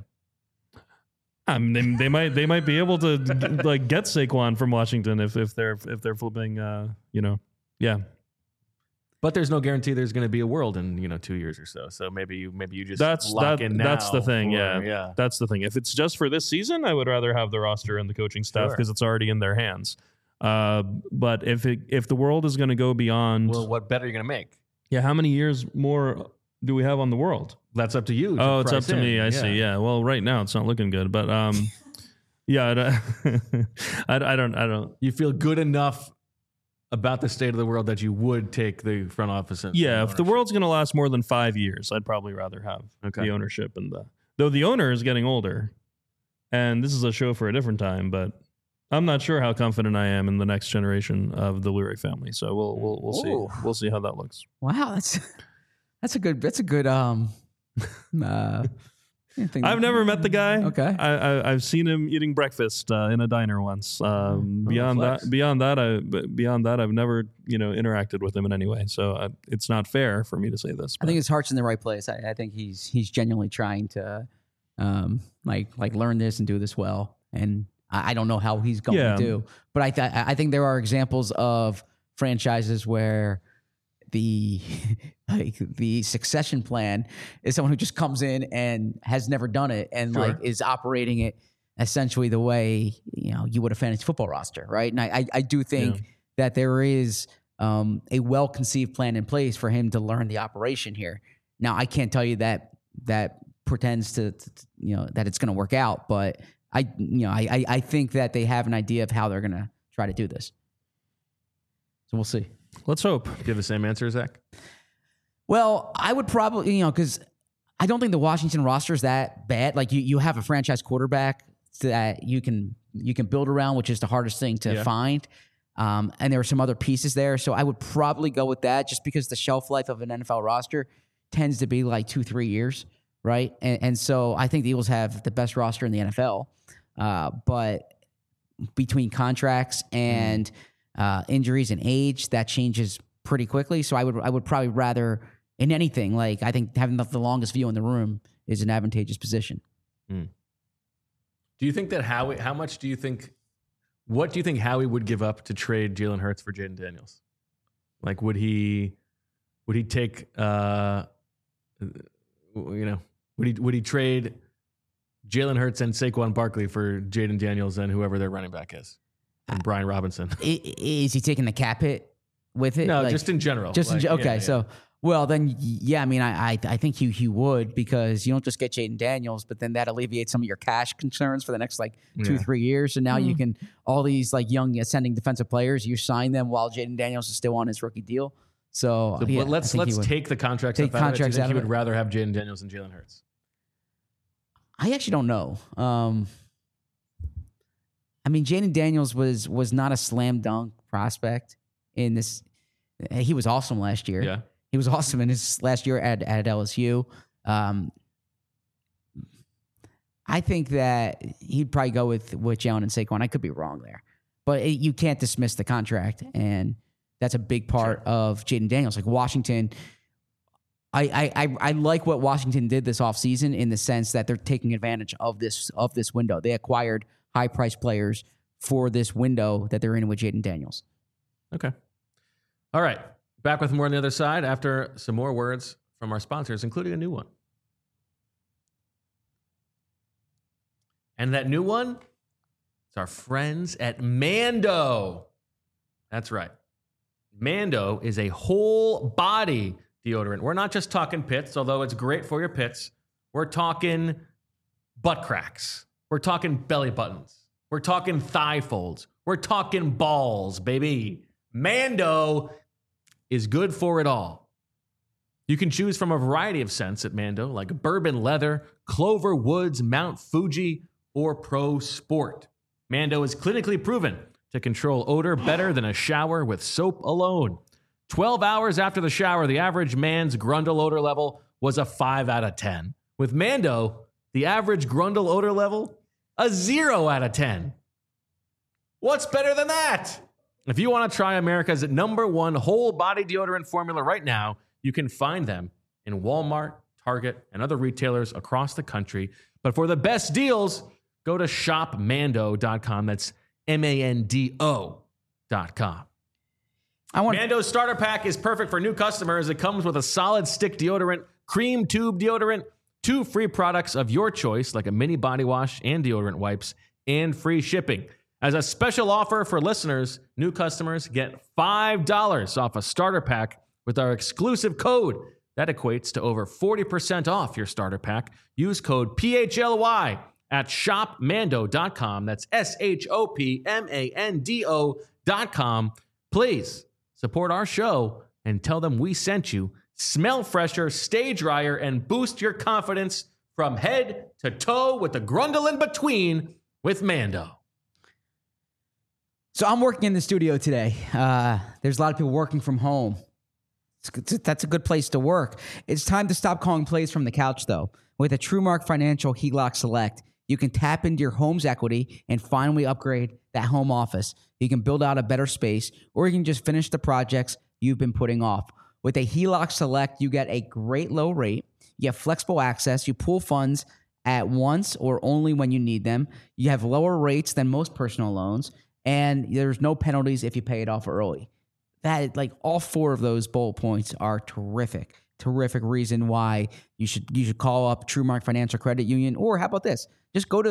They might be able to like get Saquon from Washington if they're flipping yeah. But there's no guarantee there's going to be a world in 2 years or so. So maybe you just lock in now. That's the thing. Yeah, that's the thing. If it's just for this season, I would rather have the roster and the coaching staff because it's already in their hands. But if the world is going to go beyond, well, what bet are you going to make? Yeah, how many years more do we have on the world? That's up to you. Oh, it's up to me. I see. Yeah. Well, right now it's not looking good, but yeah, I don't. You feel good enough about the state of the world that you would take the front office? If the world's going to last more than 5 years, I'd probably rather have the ownership though the owner is getting older, and this is a show for a different time, but I'm not sure how confident I am in the next generation of the Lurie family. So we'll see. We'll see how that looks. Wow, that's a good I've never met the guy. Okay, I've seen him eating breakfast in a diner once. Beyond that, I've never interacted with him in any way. So it's not fair for me to say this. I think his heart's in the right place. I think he's genuinely trying to like learn this and do this well. And I don't know how he's going to do, but I think there are examples of franchises where the succession plan is someone who just comes in and has never done it and is operating it essentially the way you would a fantasy football roster, right? And I do think that there is a well-conceived plan in place for him to learn the operation here. Now, I can't tell you that pretends to that it's going to work out, but I think that they have an idea of how they're going to try to do this. So we'll see. Let's hope. Do you have the same answer, Zach? Well, I would probably, because I don't think the Washington roster is that bad. Like you have a franchise quarterback that you can build around, which is the hardest thing to find. And there are some other pieces there. So I would probably go with that just because the shelf life of an NFL roster tends to be like 2-3 years, right? And so I think the Eagles have the best roster in the NFL. But between contracts and injuries and age, that changes pretty quickly. So I would probably rather, in anything, like I think having the longest view in the room is an advantageous position. Do you think that what do you think Howie would give up to trade Jalen Hurts for Jaden Daniels? Like, would he take, would he trade Jalen Hurts and Saquon Barkley for Jaden Daniels and whoever their running back is? And Brian Robinson. Is he taking the cap hit with it? No, just in general. So Well, then, yeah, I mean, I think he would, because you don't just get Jaden Daniels, but then that alleviates some of your cash concerns for the next 2-3 years. And now you can, all these young ascending defensive players, you sign them while Jaden Daniels is still on his rookie deal. So yeah, let's take the contracts out of it. Do you think you would rather have Jaden Daniels than Jalen Hurts? I actually don't know. I mean, Jaden Daniels was not a slam dunk prospect in this. He was awesome last year. Yeah. He was awesome in his last year at LSU. I think that he'd probably go with Jalen and Saquon. I could be wrong there. But you can't dismiss the contract, and that's a big part of Jaden Daniels. Like Washington, I like what Washington did this offseason in the sense that they're taking advantage of this window. They acquired high-priced players for this window that they're in with Jaden Daniels. Okay. All right. Back with more on the other side after some more words from our sponsors, including a new one. And that new one, it's our friends at Mando. That's right. Mando is a whole body deodorant. We're not just talking pits, although it's great for your pits. We're talking butt cracks. We're talking belly buttons. We're talking thigh folds. We're talking balls, baby. Mando is good for it all. You can choose from a variety of scents at Mando, like bourbon leather, clover woods, Mount Fuji, or Pro Sport. Mando is clinically proven to control odor better than a shower with soap alone. 12 hours after the shower, the average man's Grundle odor level was a 5 out of 10. With Mando, the average Grundle odor level, a 0 out of 10. What's better than that? If you want to try America's #1 whole body deodorant formula right now, you can find them in Walmart, Target, and other retailers across the country. But for the best deals, go to shopmando.com. That's MANDO.com. Mando's starter pack is perfect for new customers. It comes with a solid stick deodorant, cream tube deodorant, 2 free products of your choice, like a mini body wash and deodorant wipes, and free shipping. As a special offer for listeners, new customers get $5 off a starter pack with our exclusive code. That equates to over 40% off your starter pack. Use code PHLY at shopmando.com. That's SHOPMANDO.com. Please support our show and tell them we sent you. Smell fresher, stay drier, and boost your confidence from head to toe with the Grundle in between with Mando. So I'm working in the studio today. There's a lot of people working from home. That's a good place to work. It's time to stop calling plays from the couch, though. With a TrueMark Financial HELOC Select, you can tap into your home's equity and finally upgrade that home office. You can build out a better space, or you can just finish the projects you've been putting off. With a HELOC Select, you get a great low rate. You have flexible access. You pool funds at once or only when you need them. You have lower rates than most personal loans, and there's no penalties if you pay it off early. That, like, all 4 of those bullet points are terrific. Terrific reason why you should call up TrueMark Financial Credit Union. Or how about this? Just go to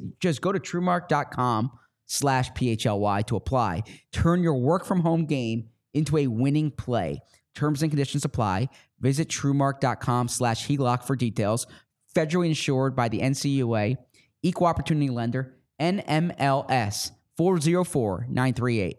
truemark.com/PHLY to apply. Turn your work from home game into a winning play. Terms and conditions apply. Visit truemark.com/HELOC for details. Federally insured by the NCUA, Equal Opportunity Lender, NMLS 404938.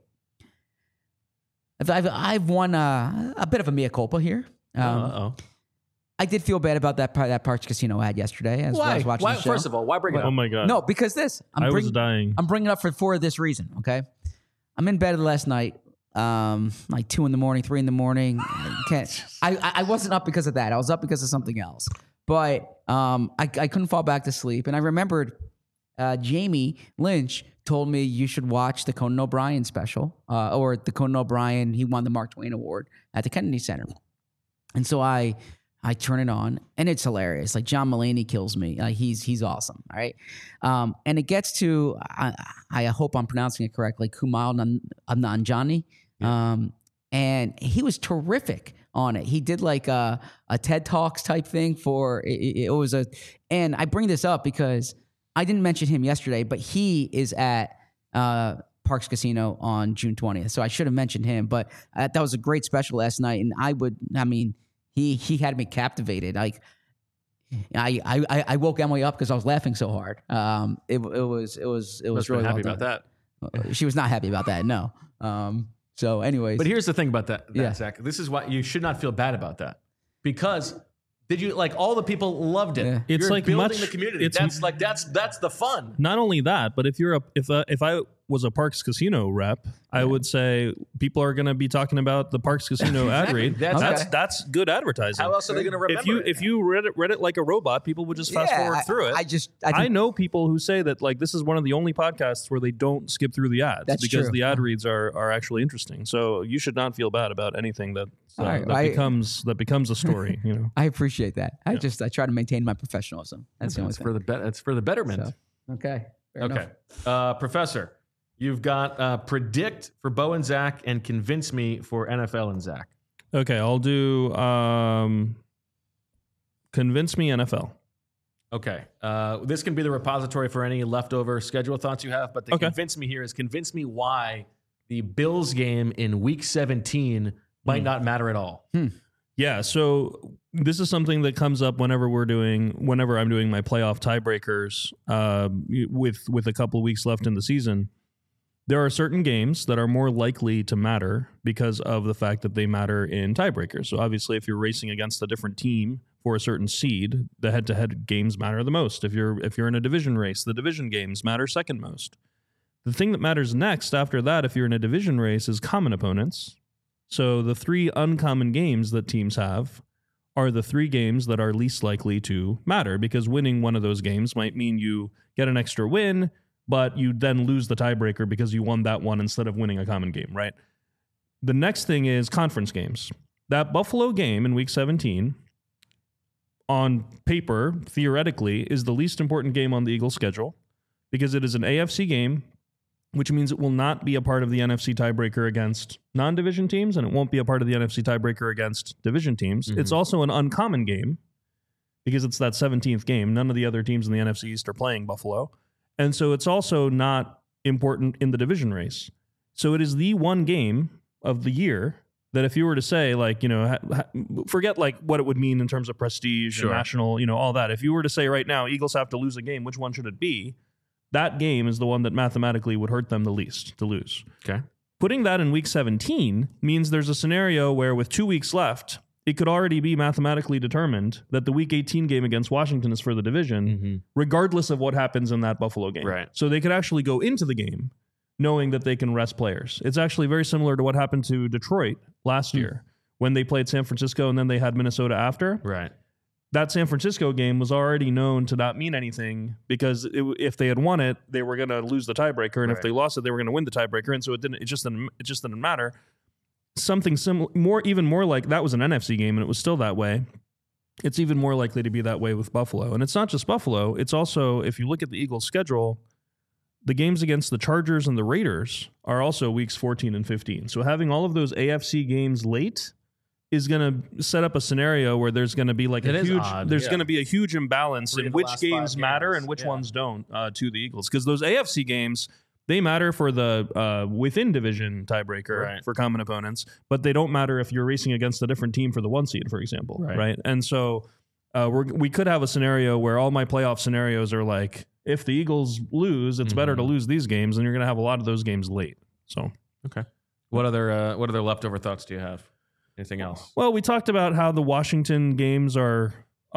I've won a bit of a mea culpa here. I did feel bad about that Parx Casino ad yesterday as I was watching the show. First of all, why bring it up? Oh my God. No, because I was dying. I'm bringing it up for this reason, okay? I'm in bed last night, like 2 in the morning, 3 in the morning. I wasn't up because of that. I was up because of something else. But I couldn't fall back to sleep. And I remembered Jamie Lynch told me you should watch the Conan O'Brien special, or the Conan O'Brien, he won the Mark Twain Award at the Kennedy Center. And so I turn it on, and it's hilarious. Like, John Mulaney kills me. He's awesome, all right? And it gets to, I hope I'm pronouncing it correctly, Kumail Nanjiani. Yeah. And he was terrific on it. He did like a TED Talks type thing for, it was and I bring this up because I didn't mention him yesterday, but he is at Parx Casino on June 20th. So I should have mentioned him, but that was a great special last night. And he had me captivated. Like I woke Emily up because I was laughing so hard. It was really happy well about that. She was not happy about that. No. So anyways, but here's the thing about that, Zach. This is why you should not feel bad about that, because did you like all the people loved it? Yeah. It's You're like building the community. That's the fun. Not only that, but if you're if I was a Parks Casino rep, I would say people are going to be talking about the Parks Casino ad read. That's good advertising. How else are they going to remember if you read it like a robot, people would just fast forward through it. I know people who say that like this is one of the only podcasts where they don't skip through the ads because the ad reads are actually interesting. So you should not feel bad about anything that becomes a story. You know, I appreciate that. I try to maintain my professionalism. That's the only thing. It's for the betterment. So, okay. Okay, Professor. You've got predict for Bo and Zach and convince me for NFL and Zach. Okay, I'll do convince me NFL. Okay, this can be the repository for any leftover schedule thoughts you have, but the convince me here is convince me why the Bills game in Week 17 might not matter at all. Yeah, so this is something that comes up whenever I'm doing my playoff tiebreakers with a couple of weeks left in the season. There are certain games that are more likely to matter because of the fact that they matter in tiebreakers. So obviously, if you're racing against a different team for a certain seed, the head-to-head games matter the most. If you're in a division race, the division games matter second most. The thing that matters next after that, if you're in a division race, is common opponents. So the 3 uncommon games that teams have are the 3 games that are least likely to matter, because winning one of those games might mean you get an extra win, but you then lose the tiebreaker because you won that one instead of winning a common game, right? The next thing is conference games. That Buffalo game in Week 17, on paper, theoretically, is the least important game on the Eagles' schedule because it is an AFC game, which means it will not be a part of the NFC tiebreaker against non-division teams, and it won't be a part of the NFC tiebreaker against division teams. Mm-hmm. It's also an uncommon game because it's that 17th game. None of the other teams in the NFC East are playing Buffalo. And so it's also not important in the division race. So it is the one game of the year that if you were to say, like, you know, forget like what it would mean in terms of prestige and national, you know, all that. If you were to say right now, Eagles have to lose a game, which one should it be? That game is the one that mathematically would hurt them the least to lose. Okay. Putting that in Week 17 means there's a scenario where with 2 weeks left, it could already be mathematically determined that the Week 18 game against Washington is for the division, regardless of what happens in that Buffalo game. Right. So they could actually go into the game knowing that they can rest players. It's actually very similar to what happened to Detroit last year when they played San Francisco and then they had Minnesota after. Right. That San Francisco game was already known to not mean anything because if they had won it, they were going to lose the tiebreaker, and if they lost it, they were going to win the tiebreaker, and so it just didn't matter. Something similar, even more like that was an NFC game, and it was still that way. It's even more likely to be that way with Buffalo, and it's not just Buffalo. It's also, if you look at the Eagles' schedule, the games against the Chargers and the Raiders are also weeks 14 and 15. So having all of those AFC games late is going to set up a scenario where there's going to be like going to be a huge imbalance in which games matter and which ones don't to the Eagles, because those AFC games, they matter for the within division tiebreaker for common opponents, but they don't matter if you're racing against a different team for the 1 seed, for example, right? And so we could have a scenario where all my playoff scenarios are like, if the Eagles lose, it's better to lose these games, and you're going to have a lot of those games late. So okay, what other leftover thoughts do you have? Anything else? Well, we talked about how the Washington games are,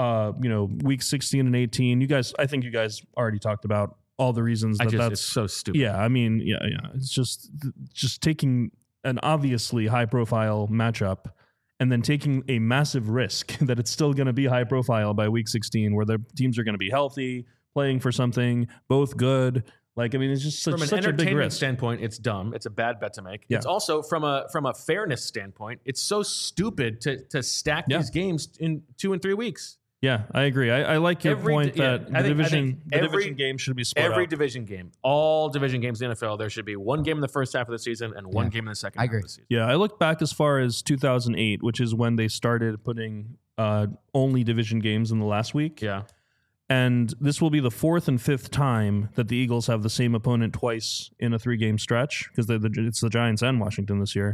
week 16 and 18. I think you guys already talked about all the reasons that's it's so stupid. Yeah, I mean, yeah. It's just taking an obviously high profile matchup and then taking a massive risk that it's still going to be high profile by week 16, where the teams are going to be healthy, playing for something, both good. Like, I mean, it's just such a big risk. From an entertainment standpoint, it's dumb. It's a bad bet to make. Yeah. It's also from a fairness standpoint, it's so stupid to stack these games in 2 and 3 weeks. Yeah, I agree. I like your point that the division game should be split up. Every division game, all division games in the NFL, there should be one game in the first half of the season and one game in the second half of the season. Yeah, I look back as far as 2008, which is when they started putting only division games in the last week. Yeah. And this will be the 4th and 5th time that the Eagles have the same opponent twice in a 3-game stretch, because it's the Giants and Washington this year.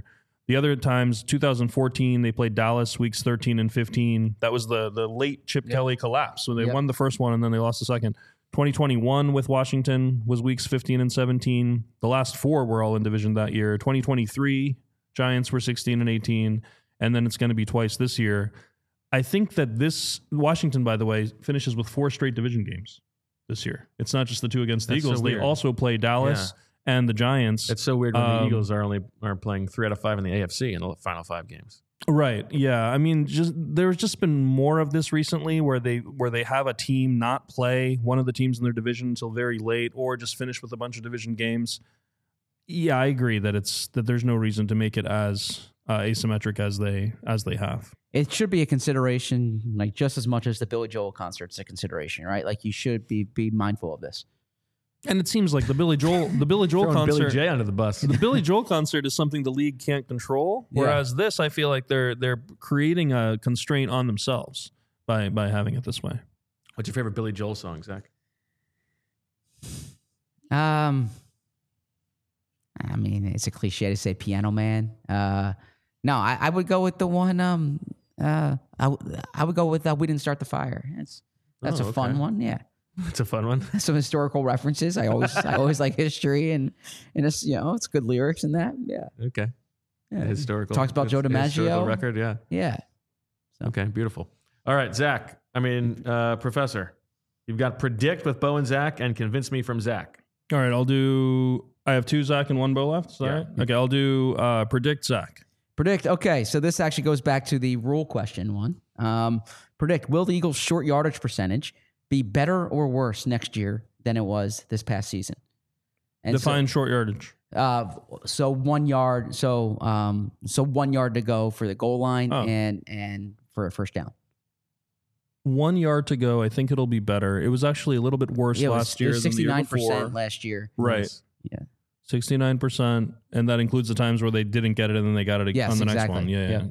The other times, 2014, they played Dallas weeks 13 and 15. That was the late Chip Kelly collapse. So they won the first one and then they lost the second. 2021 with Washington was weeks 15 and 17. The last 4 were all in division that year. 2023, Giants were 16 and 18. And then it's going to be twice this year. I think that Washington, by the way, finishes with 4 straight division games this year. It's not just the 2 against the Eagles. They also play Dallas and the Giants. It's so weird when the Eagles are playing 3 out of 5 in the AFC in the final 5 games. Right. Yeah. I mean, there's just been more of this recently where they have a team not play one of the teams in their division until very late, or just finish with a bunch of division games. Yeah, I agree that there's no reason to make it as asymmetric as they have. It should be a consideration, like just as much as the Billy Joel concert's a consideration, right? Like you should be mindful of this. And it seems like the Billy Joel concert, Billy J under the bus. The Billy Joel concert is something the league can't control, whereas this, I feel like they're creating a constraint on themselves by having it this way. What's your favorite Billy Joel song, Zach? I mean, it's a cliche to say Piano Man. No, I would go with the one. I would go with We Didn't Start the Fire. That's a fun one. Yeah. It's a fun one. Some historical references. I always like history and it's it's good lyrics in that. Yeah. Okay. Yeah. Historical. Talks about Joe DiMaggio. Record. Yeah. Yeah. So. Okay. Beautiful. All right, Zach. Professor, you've got predict with Bo and Zach and convince me from Zach. All right. I have 2 Zach and 1 Bo left. Is that right? Okay. I'll do predict Zach. Predict. Okay. So this actually goes back to the rule question one. Predict. Will the Eagles' short yardage percentage be better or worse next year than it was this past season? And define short yardage. So 1 yard. So 1 yard to go for the goal line and for a first down. 1 yard to go. I think it'll be better. It was actually a little bit worse last year. It was 69% last year. Right. Yeah. 69%, and that includes the times where they didn't get it and then they got it on the next one. Yeah.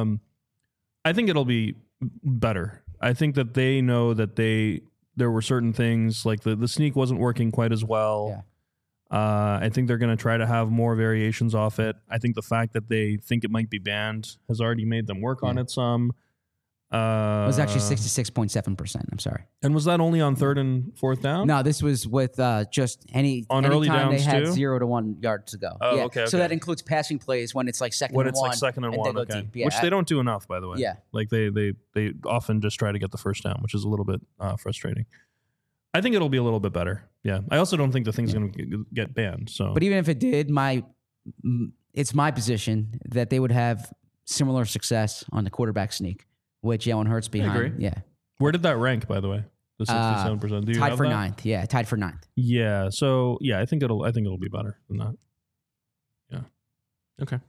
I think it'll be better. I think that they know that there were certain things like the sneak wasn't working quite as well. Yeah. I think they're going to try to have more variations off it. I think the fact that they think it might be banned has already made them work on it some. It was actually 66.7%. I'm sorry. And was that only on 3rd and 4th down? No, this was with just any early time downs they had too? 0 to 1 yards to go. Oh, okay. So that includes passing plays when it's like second and one. Okay. Which they don't do enough, by the way. Yeah. Like they often just try to get the first down, which is a little bit frustrating. I think it'll be a little bit better. Yeah. I also don't think the thing's going to get banned. So, but even if it did, it's my position that they would have similar success on the quarterback sneak, which Jalen Hurts behind. I agree. Yeah. Where did that rank, by the way? The 67%. Do you tied have for that? 9th. Yeah, tied for 9th. Yeah. So I think it'll be better than that. Yeah. Okay.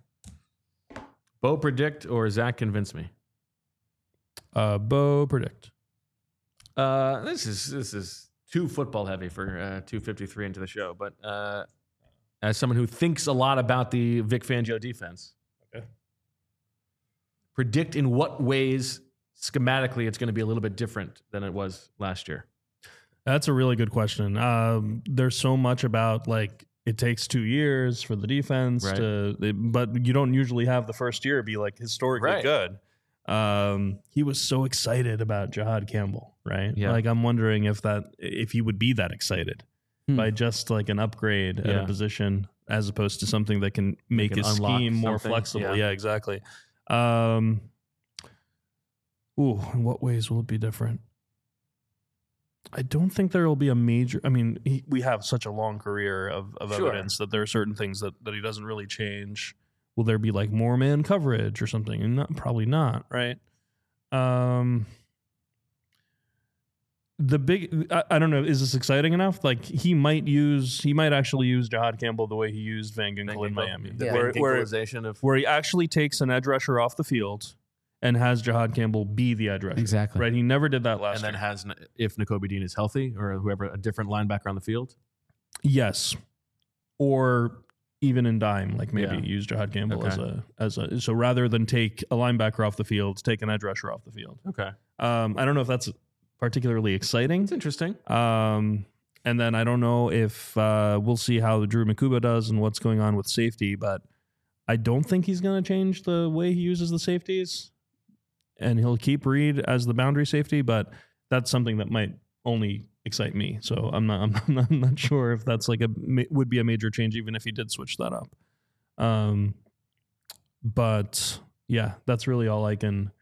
Bo predict or Zach convince me? Bo predict. This is too football heavy for 253 into the show, but as someone who thinks a lot about the Vic Fangio defense, okay, predict in what ways schematically it's going to be a little bit different than it was last year. That's a really good question. There's so much about like it takes 2 years for the defense but you don't usually have the first year be like historically good. He was so excited about Jahad Campbell, right? Yeah. Like I'm wondering if he would be that excited by just like an upgrade at a position as opposed to something that can make his scheme more flexible. Yeah, exactly. In what ways will it be different? I don't think there will be a major. I mean, we have such a long career of evidence that there are certain things that he doesn't really change. Will there be like more man coverage or something? And probably not, right? I don't know. Is this exciting enough? Like he might actually use Jahad Campbell the way he used Van Ginkel in Miami, where he actually takes an edge rusher off the field and has Jahad Campbell be the edge rusher. Exactly. Right. He never did that last year. And then has, if Nakobe Dean is healthy or whoever, a different linebacker on the field. Yes. Or even in dime, like maybe use Jahad Campbell so rather than take a linebacker off the field, take an edge rusher off the field. Okay. I don't know if that's particularly exciting. It's interesting. And then I don't know if we'll see how Drew Makuba does and what's going on with safety, but I don't think he's going to change the way he uses the safeties, and he'll keep Reed as the boundary safety, but that's something that might only excite me. So I'm not sure if that's like would be a major change, even if he did switch that up. But yeah, that's really all I can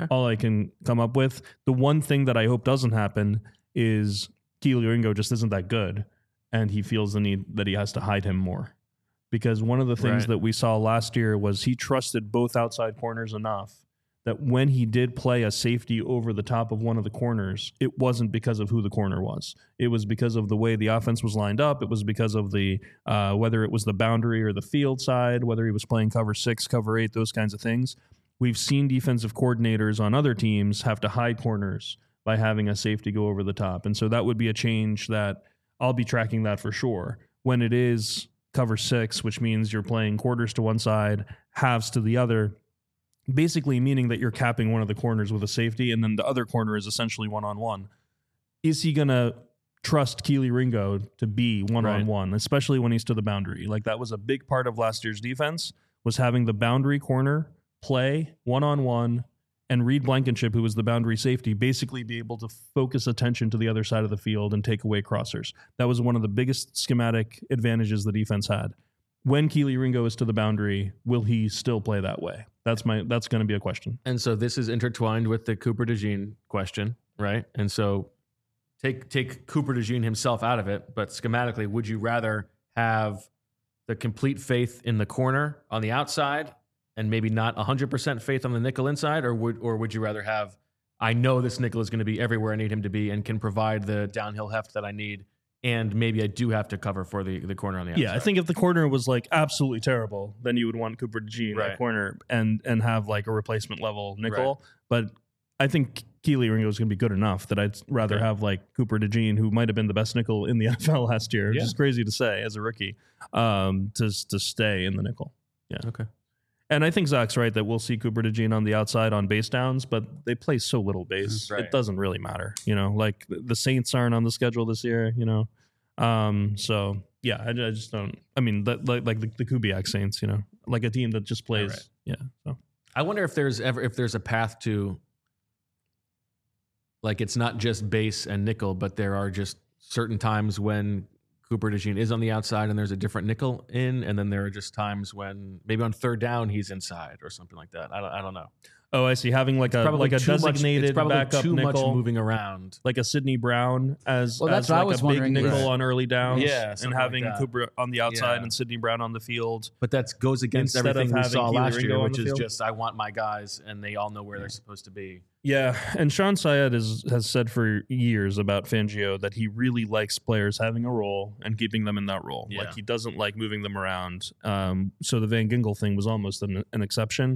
come up with. The one thing that I hope doesn't happen is Kelee Ringo just isn't that good, and he feels the need that he has to hide him more. Because one of the things that we saw last year was he trusted both outside corners enough that when he did play a safety over the top of one of the corners, it wasn't because of who the corner was. It was because of the way the offense was lined up. It was because of the whether it was the boundary or the field side, whether he was playing cover 6, cover 8, those kinds of things. We've seen defensive coordinators on other teams have to hide corners by having a safety go over the top. And so that would be a change that I'll be tracking that for sure. When it is cover 6, which means you're playing quarters to one side, halves to the other, basically meaning that you're capping one of the corners with a safety, and then the other corner is essentially one-on-one. Is he going to trust Kelee Ringo to be one-on-one, especially when he's to the boundary? Like, that was a big part of last year's defense, was having the boundary corner play one-on-one, and Reed Blankenship, who was the boundary safety, basically be able to focus attention to the other side of the field and take away crossers. That was one of the biggest schematic advantages the defense had. When Kelee Ringo is to the boundary, will he still play that way? That's going to be a question. And so this is intertwined with the Cooper DeJean question, right? And so take Cooper DeJean himself out of it, but schematically, would you rather have the complete faith in the corner on the outside and maybe not 100% faith on the nickel inside, or would you rather have, I know this nickel is going to be everywhere I need him to be and can provide the downhill heft that I need, and maybe I do have to cover for the corner on the outside? Yeah, I think if the corner was like absolutely terrible, then you would want Cooper DeJean at corner and have like a replacement level nickel. Right. But I think Kelee Ringo is going to be good enough that I'd rather have like Cooper DeJean, who might have been the best nickel in the NFL last year, which is crazy to say as a rookie, to stay in the nickel. Yeah. Okay. And I think Zach's right that we'll see Cooper DeJean on the outside on base downs, but they play so little base. Right. It doesn't really matter. Like the Saints aren't on the schedule this year, So, yeah, I just don't. I mean, like the Kubiak Saints, like a team that just plays. Right. Yeah. So I wonder if there's a path to, like, it's not just base and nickel, but there are just certain times when Cooper DeJean is on the outside and there's a different nickel in, and then there are just times when maybe on third down he's inside or something like that. I don't know. Oh, I see. Having like a designated backup too nickel, much moving around, like a Sidney Brown as that's like what I was a big nickel right. on early downs, and having like Cooper on the outside and Sidney Brown on the field. But that goes against everything we saw last year, which is field. just I want my guys and they all know where they're supposed to be. Yeah, and Sean Syed has said for years about Fangio that he really likes players having a role and keeping them in that role. Yeah. Like, he doesn't like moving them around. So the Van Ginkel thing was almost an exception.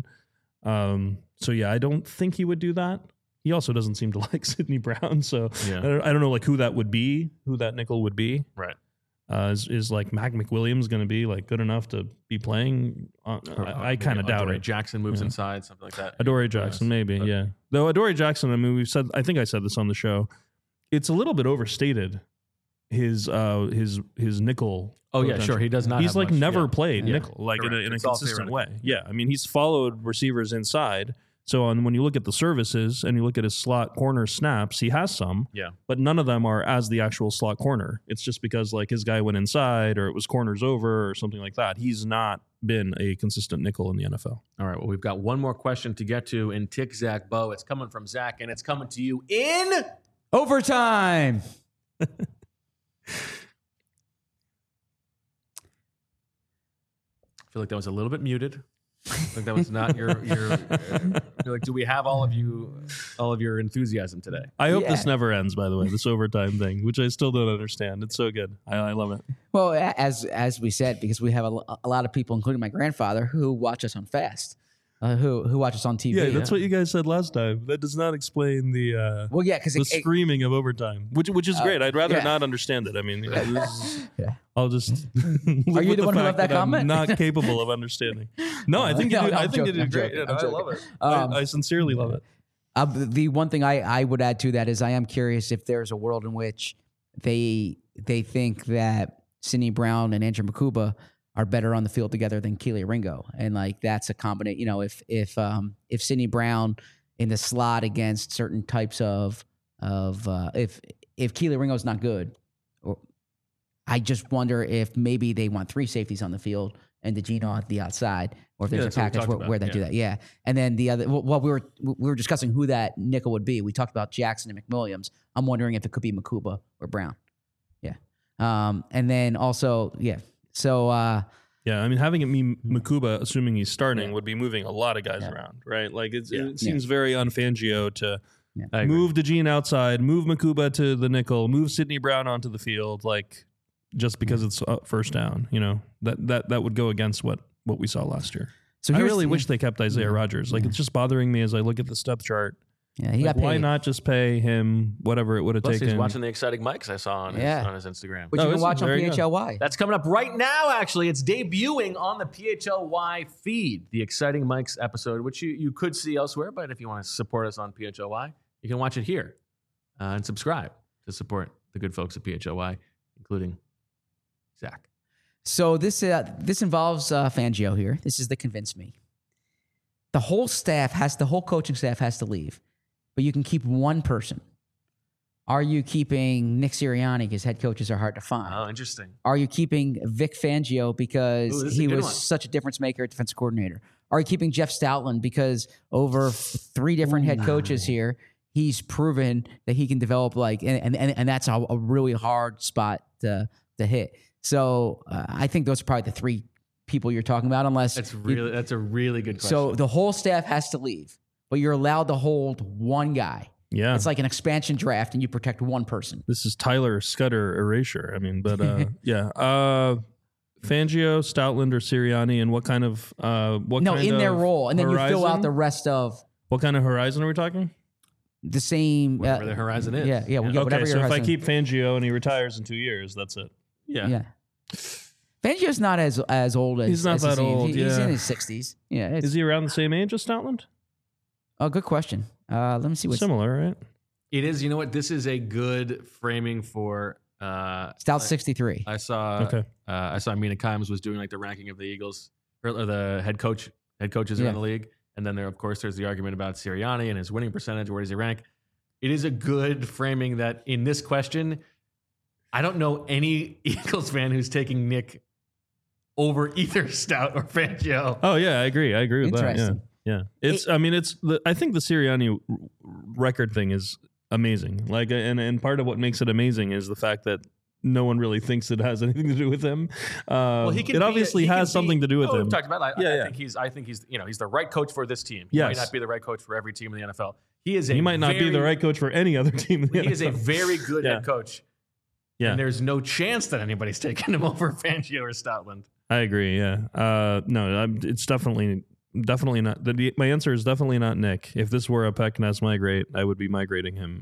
So yeah, I don't think he would do that. He also doesn't seem to like Sidney Brown, so I don't know like who that nickel would be. Right. Is like Mac McWilliams going to be like good enough to be playing? I kind of doubt it. Adoree Jackson moves inside, something like that. Adoree Jackson, maybe, yeah. Though Adoree Jackson, I mean, I think I said this on the show. It's a little bit overstated. His nickel. Oh yeah, sure. He does not. He's like never played nickel like Correct. in a consistent way. Yeah, I mean, he's followed receivers inside. So when you look at the services and you look at his slot corner snaps, he has some. Yeah. But none of them are as the actual slot corner. It's just because like his guy went inside or it was corners over or something like that. He's not been a consistent nickel in the NFL. All right. Well, we've got one more question to get to in Tick Zach Bo. It's coming from Zach, and it's coming to you in overtime. I feel like that was a little bit muted. Like that was not your like, do we have all of your enthusiasm today? I hope this never ends, by the way, this overtime thing, which I still don't understand. It's so good. I love it. Well, as we said, because we have a lot of people, including my grandfather, who watch us on Fast. Who watch us on TV. Yeah, that's what you guys said last time. That does not explain the the screaming of overtime, which is great. I'd rather not understand it. I mean, I'll just Are you the one who left that comment? I'm not capable of understanding. No, I think you do. I think you did great. I love it. I sincerely love it. The one thing I would add to that is I am curious if there's a world in which they think that Sidney Brown and Andrew Mukuba are better on the field together than Keely Ringo, and like that's a combination. You know, if Sidney Brown in the slot against certain types of if Keely Ringo's not good, or I just wonder if maybe they want 3 safeties on the field and DeGeno on the outside, or if there's a package where they do that. Yeah, and then the other, well, we were discussing who that nickel would be. We talked about Jackson and McWilliams. I'm wondering if it could be Makuba or Brown. Yeah, and then also So, yeah, I mean, having it be Makuba, assuming he's starting, would be moving a lot of guys around, right? Like it seems very unFangio to move DeGene outside, move Makuba to the nickel, move Sidney Brown onto the field, like just because it's first down. You know, that would go against what we saw last year. So I really wish they kept Isaiah Rodgers. Like it's just bothering me as I look at the depth chart. Yeah, he got paid. Why not just pay him whatever it would have taken? He's watching the Exciting Mics I saw on his Instagram. Which you can watch on PHLY. That's coming up right now, actually. It's debuting on the PHLY feed, the Exciting Mics episode, which you could see elsewhere, but if you want to support us on PHLY, you can watch it here and subscribe to support the good folks at PHLY, including Zach. So this involves Fangio here. This is the convince me. The whole coaching staff has to leave. But you can keep one person. Are you keeping Nick Sirianni because head coaches are hard to find? Oh, interesting. Are you keeping Vic Fangio because he was such a difference maker at defensive coordinator? Are you keeping Jeff Stoutland because over 3 different head coaches here, he's proven that he can develop and that's a really hard spot to hit. So I think those are probably the 3 people you're talking about, unless that's a really good question. So the whole staff has to leave. But you're allowed to hold one guy. Yeah. It's like an expansion draft and you protect one person. This is Tyler Scudder erasure. I mean, but yeah. Fangio, Stoutland, or Sirianni, and what kind of their role. And then horizon? You fill out the rest of what kind of horizon are we talking? The same whatever the horizon is. Yeah. Okay, so if I keep Fangio and he retires in 2 years, that's it. Yeah. Fangio's not as old as he's not that old. He's in his 60s. Yeah. Is he around the same age as Stoutland? Oh, good question. Let me see what's similar, right? It is. You know what? This is a good framing for Stout 63. I saw Mina Kimes was doing like the ranking of the Eagles or the head coaches around the league, and then there's the argument about Sirianni and his winning percentage. Where does he rank? It is a good framing that in this question, I don't know any Eagles fan who's taking Nick over either Stout or Fangio. Oh yeah, I agree with that. Yeah. Yeah, I think the Sirianni record thing is amazing. Like, and part of what makes it amazing is the fact that no one really thinks it has anything to do with him. It obviously has something to do with him. We've talked about it. I think he's he's the right coach for this team. He might not be the right coach for every team in the NFL. He might not be the right coach for any other team in the NFL. He is a very good head coach. Yeah, and there's no chance that anybody's taking him over Fangio or Stoutland. I agree. Yeah. No, it's definitely not. My answer is definitely not Nick. If this were a Peckness migrate, I would be migrating him.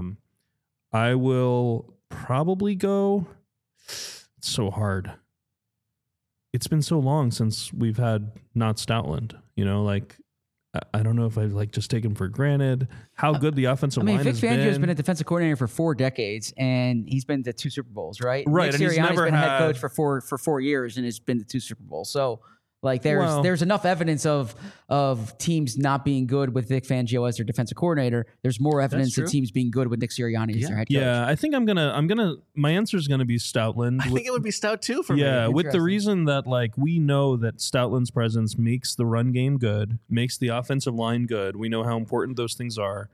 I will probably go. It's so hard. It's been so long since we've had not Stoutland. You know, like I don't know if I just take him for granted how good the offensive line has been. Vic Fangio's been a defensive coordinator for 4 decades, and he's been to 2 Super Bowls, right? Right. Nick Sirianni's been a head coach for 4 years and has been to 2 Super Bowls. So. Like there's enough evidence of teams not being good with Vic Fangio as their defensive coordinator. There's more evidence of teams being good with Nick Sirianni as their head coach. Yeah, I think I'm gonna. My answer is gonna be Stoutland. I think it would be Stout too for me. Yeah, with the reason that we know that Stoutland's presence makes the run game good, makes the offensive line good. We know how important those things are.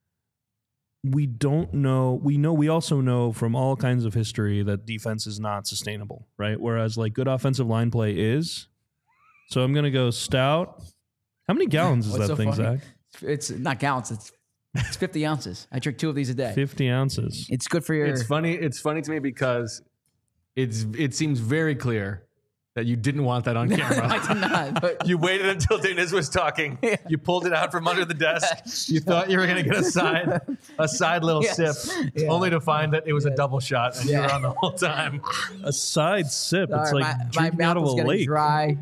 We don't know. We also know from all kinds of history that defense is not sustainable, right? Whereas good offensive line play is. So I'm going to go Stout. How many gallons is that thing, funny? Zach? It's not gallons. It's 50 ounces. I drink 2 of these a day. 50 ounces. It's good for your... It's funny to me because it seems very clear that you didn't want that on camera. I did not. But you waited until Dennis was talking. Yeah. You pulled it out from under the desk. You thought you were going to get a side little sip, only to find that it was a double shot, and you were on the whole time. A side sip. It's like drinking my out of a lake. Dry.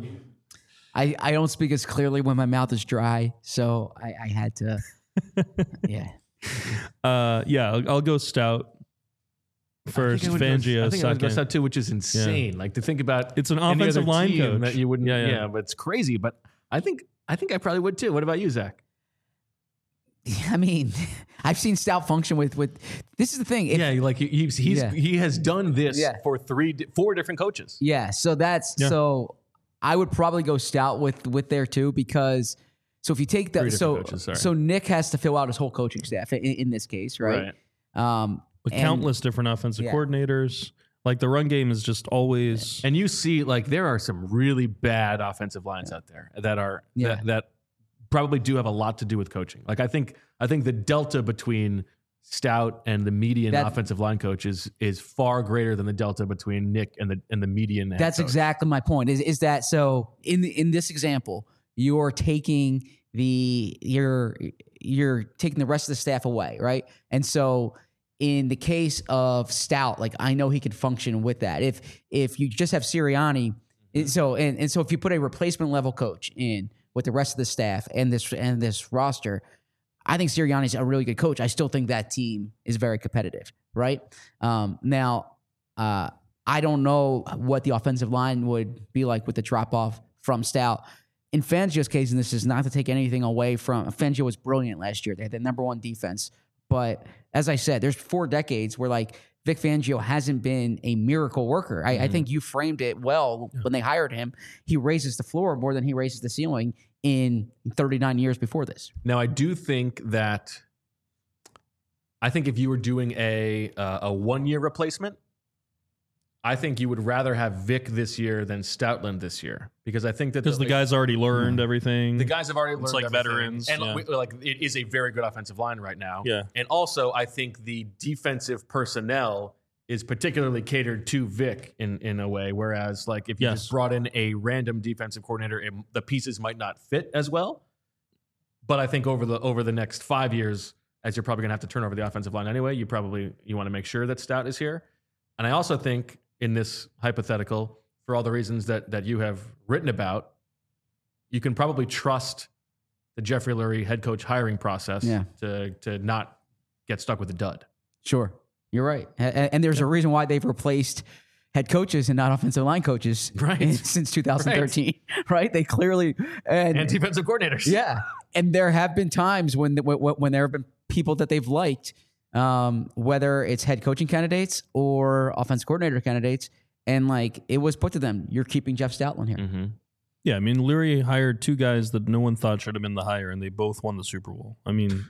I don't speak as clearly when my mouth is dry, so I had to. I'll go Stout. first, Fangio I think second. I would go Stout too, which is insane. Like to think about it's an any offensive other line team coach that you wouldn't. Yeah. But it's crazy. But I think I probably would too. What about you, Zach? I mean, I've seen Stout function with. This is the thing. He has done this for 4 different coaches. Yeah, so so I would probably go Stout with there too, because so if you take that, so Nick has to fill out his whole coaching staff in this case, right? With countless different offensive coordinators. Like the run game is just always, and you see like there are some really bad offensive lines out there that probably do have a lot to do with coaching. Like I think the delta between Stout and the median offensive line coach is far greater than the delta between Nick and the median. That's coach. Exactly my point. Is that so? In this example, you're taking you're taking the rest of the staff away, right? And so in the case of Stout, like I know he could function with that. If you just have Sirianni, so if you put a replacement level coach in with the rest of the staff and this roster, I think Sirianni's a really good coach. I still think that team is very competitive, right? Now, I don't know what the offensive line would be like with the drop off from Stout. In Fangio's case, and this is not to take anything away from Fangio, was brilliant last year. They had the number 1 defense. But as I said, there's 4 decades where like Vic Fangio hasn't been a miracle worker. I think you framed it well when they hired him. He raises the floor more than he raises the ceiling in 39 years before this. Now, I do think that if you were doing a 1-year replacement, I think you would rather have Vic this year than Stoutland this year, because I think that the guys already learned everything. The guys have already learned. It's like everything. veterans, and it is a very good offensive line right now. Yeah, and also I think the defensive personnel is particularly catered to Vic in a way, whereas like if you just brought in a random defensive coordinator, the pieces might not fit as well. But I think over the next 5 years, as you're probably going to have to turn over the offensive line anyway, you want to make sure that Stout is here. And I also think in this hypothetical, for all the reasons that you have written about, you can probably trust the Jeffrey Lurie head coach hiring process to not get stuck with a dud. Sure. You're right. And there's a reason why they've replaced head coaches and not offensive line coaches since 2013, right? They clearly... And defensive coordinators. Yeah. And there have been times when there have been people that they've liked, whether it's head coaching candidates or offensive coordinator candidates, and like it was put to them, you're keeping Jeff Stoutland here. Mm-hmm. Yeah, I mean, Lurie hired 2 guys that no one thought should have been the hire, and they both won the Super Bowl. I mean,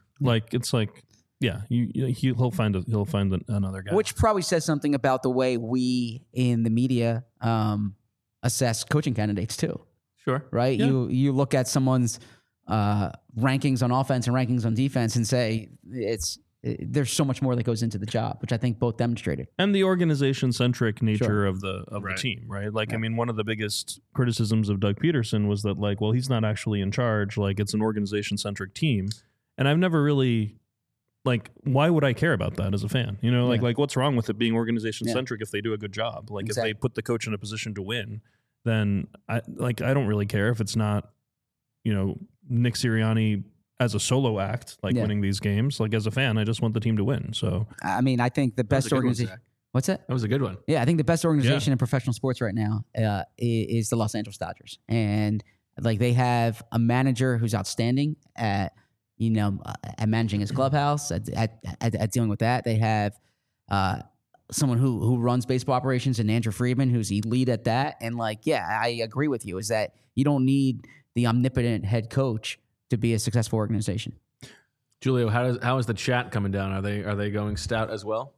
he'll find another guy, which probably says something about the way we in the media assess coaching candidates too. Sure, right? Yeah. You look at someone's rankings on offense and rankings on defense and say there's so much more that goes into the job, which I think both demonstrated. And the organization-centric nature of the team, right? Like, I mean, one of the biggest criticisms of Doug Peterson was that, like, well, he's not actually in charge. Like, it's an organization-centric team. And I've never really, like, why would I care about that as a fan? You know, like what's wrong with it being organization-centric if they do a good job? Like, if they put the coach in a position to win, then, I don't really care if it's not, Nick Sirianni as a solo act, winning these games. Like, as a fan, I just want the team to win. So, I mean, I think the best organization. What's that? That was a good one. Yeah, I think the best organization in professional sports right now is the Los Angeles Dodgers, and like they have a manager who's outstanding at managing his clubhouse, at dealing with that. They have someone who runs baseball operations, and Andrew Friedman, who's elite at that. And I agree with you. Is that you don't need the omnipotent head coach to be a successful organization. Julio, how is the chat coming down? Are they going Stout as well?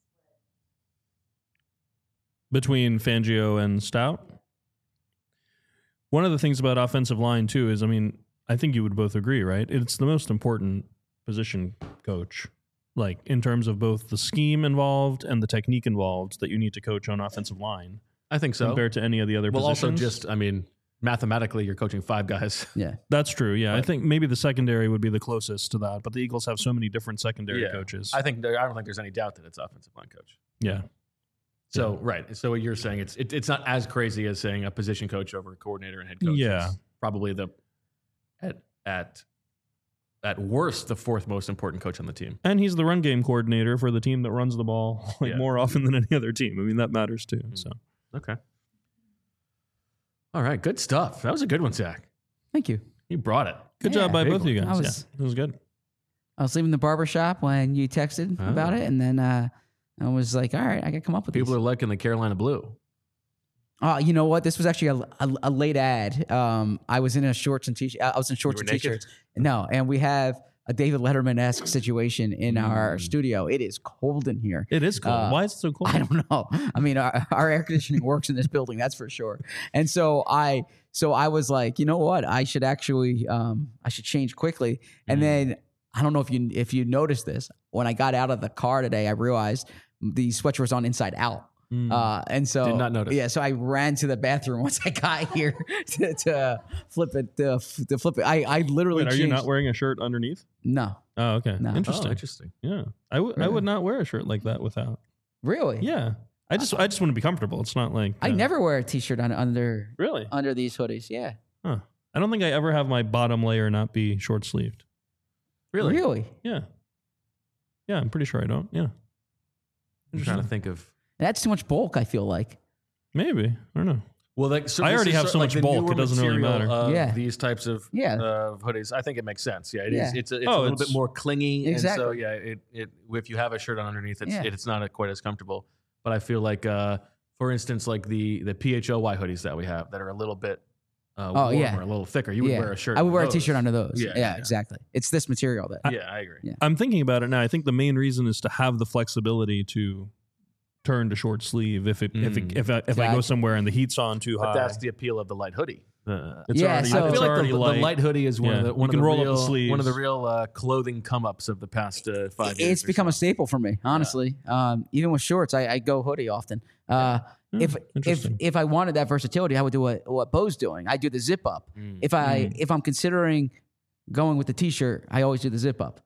Between Fangio and Stout? One of the things about offensive line, too, is, I mean, I think you would both agree, right? It's the most important position coach, like in terms of both the scheme involved and the technique involved that you need to coach on offensive line. I think so. Compared to any of the other positions. Also just, I mean, mathematically, you're coaching 5 guys. Yeah, that's true. Yeah, I think maybe the secondary would be the closest to that, but the Eagles have so many different secondary coaches. I don't think there's any doubt that it's offensive line coach. Yeah. So right. So what you're saying, it's not as crazy as saying a position coach over a coordinator and head coach. Yeah, it's probably at at worst, the fourth most important coach on the team. And he's the run game coordinator for the team that runs the ball more often than any other team. I mean, that matters too. So okay. All right, good stuff. That was a good one, Zach. Thank you. You brought it. Good job by both of you guys. It was good. I was leaving the barbershop when you texted about it, and then I was like, all right, I got to come up with People are liking the Carolina blue. You know what? This was actually a late ad. I was in shorts and t-shirts. I was in shorts and t-shirts. No, and we have a David Letterman-esque situation in our studio. It is cold in here. It is cold. Why is it so cold? I don't know. I mean, our air conditioning works in this building, that's for sure. And so I was like, you know what? I should actually I should change quickly. And then I don't know if you noticed this. When I got out of the car today, I realized the sweatshirt was on inside out. And so did not notice. Yeah, so I ran to the bathroom once I got here to flip it. To flip it, I literally. Wait, are you not wearing a shirt underneath? No. Oh, okay. No. Interesting. Oh, interesting. Yeah, I would not wear a shirt like that without. Really? Yeah, I just want to be comfortable. It's not like I never wear a t-shirt under these hoodies. Yeah. Huh. I don't think I ever have my bottom layer not be short sleeved. Really? Yeah. Yeah, I'm pretty sure I don't. Yeah. I'm trying to think of. That's too much bulk, I feel like. Maybe. I don't know. Well, I already have so much bulk, it doesn't really matter. These types of hoodies, I think it makes sense. Yeah, it's a little bit more clingy. Exactly. And so, if you have a shirt on underneath, it's not quite as comfortable. But I feel like, for instance, like the PHOY hoodies that we have that are a little bit warmer, a little thicker. You would wear a shirt. I would wear a t-shirt under those. Yeah, exactly. It's this material that. I agree. Yeah. I'm thinking about it now. I think the main reason is to have the flexibility to turn to short sleeve if I go somewhere and the heat's on too high. But that's the appeal of the light hoodie. I feel like the light hoodie is one of the real clothing come ups of the past 5 years. It's become a staple for me, honestly. Even with shorts, I go hoodie often. If I wanted that versatility, I would do what Bo's doing. I do the zip up. If I'm considering going with the t-shirt, I always do the zip up.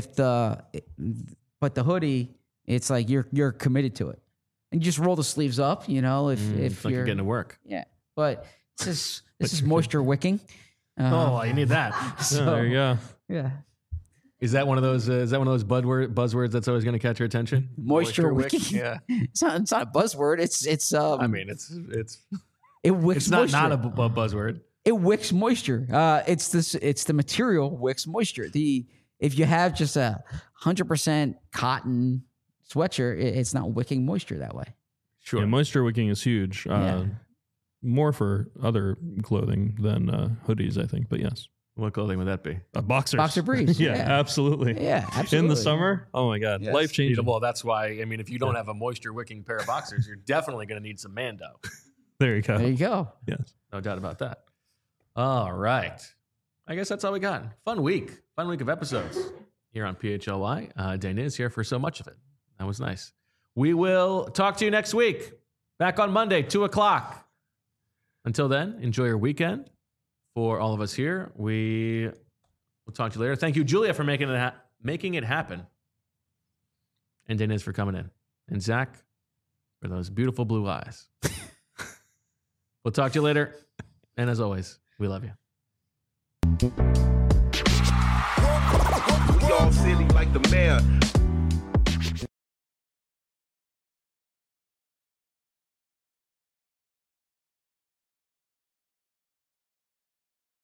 But the hoodie, it's like you're committed to it, and you just roll the sleeves up. You know, if you're getting to work. Yeah, but this is moisture wicking. You need that. So, there you go. Yeah. Is that one of those? Buzzwords that's always going to catch your attention? Moisture wicking. Yeah, it's not a buzzword. It's. I mean, it's. It wicks. It's not a buzzword. It wicks moisture. It's the material wicks moisture. If you have just 100% cotton sweatshirt, it's not wicking moisture that way. Sure. Yeah, moisture wicking is huge. More for other clothing than hoodies, I think. But yes. What clothing would that be? Boxers. Boxer briefs. Yeah, absolutely. Yeah, absolutely. In the summer, oh my God, yes. Life changing. Well, that's why. I mean, if you don't have a moisture wicking pair of boxers, you're definitely going to need some Mando. There you go. There you go. Yes, no doubt about that. All right, I guess that's all we got. Fun week of episodes here on PHLY. Dana is here for so much of it. That was nice. We will talk to you next week. Back on Monday, 2:00. Until then, enjoy your weekend. For all of us here, we will talk to you later. Thank you, Julia, for making it happen. And Dennis for coming in. And Zach for those beautiful blue eyes. We'll talk to you later. And as always, we love you. We all silly like the mayor.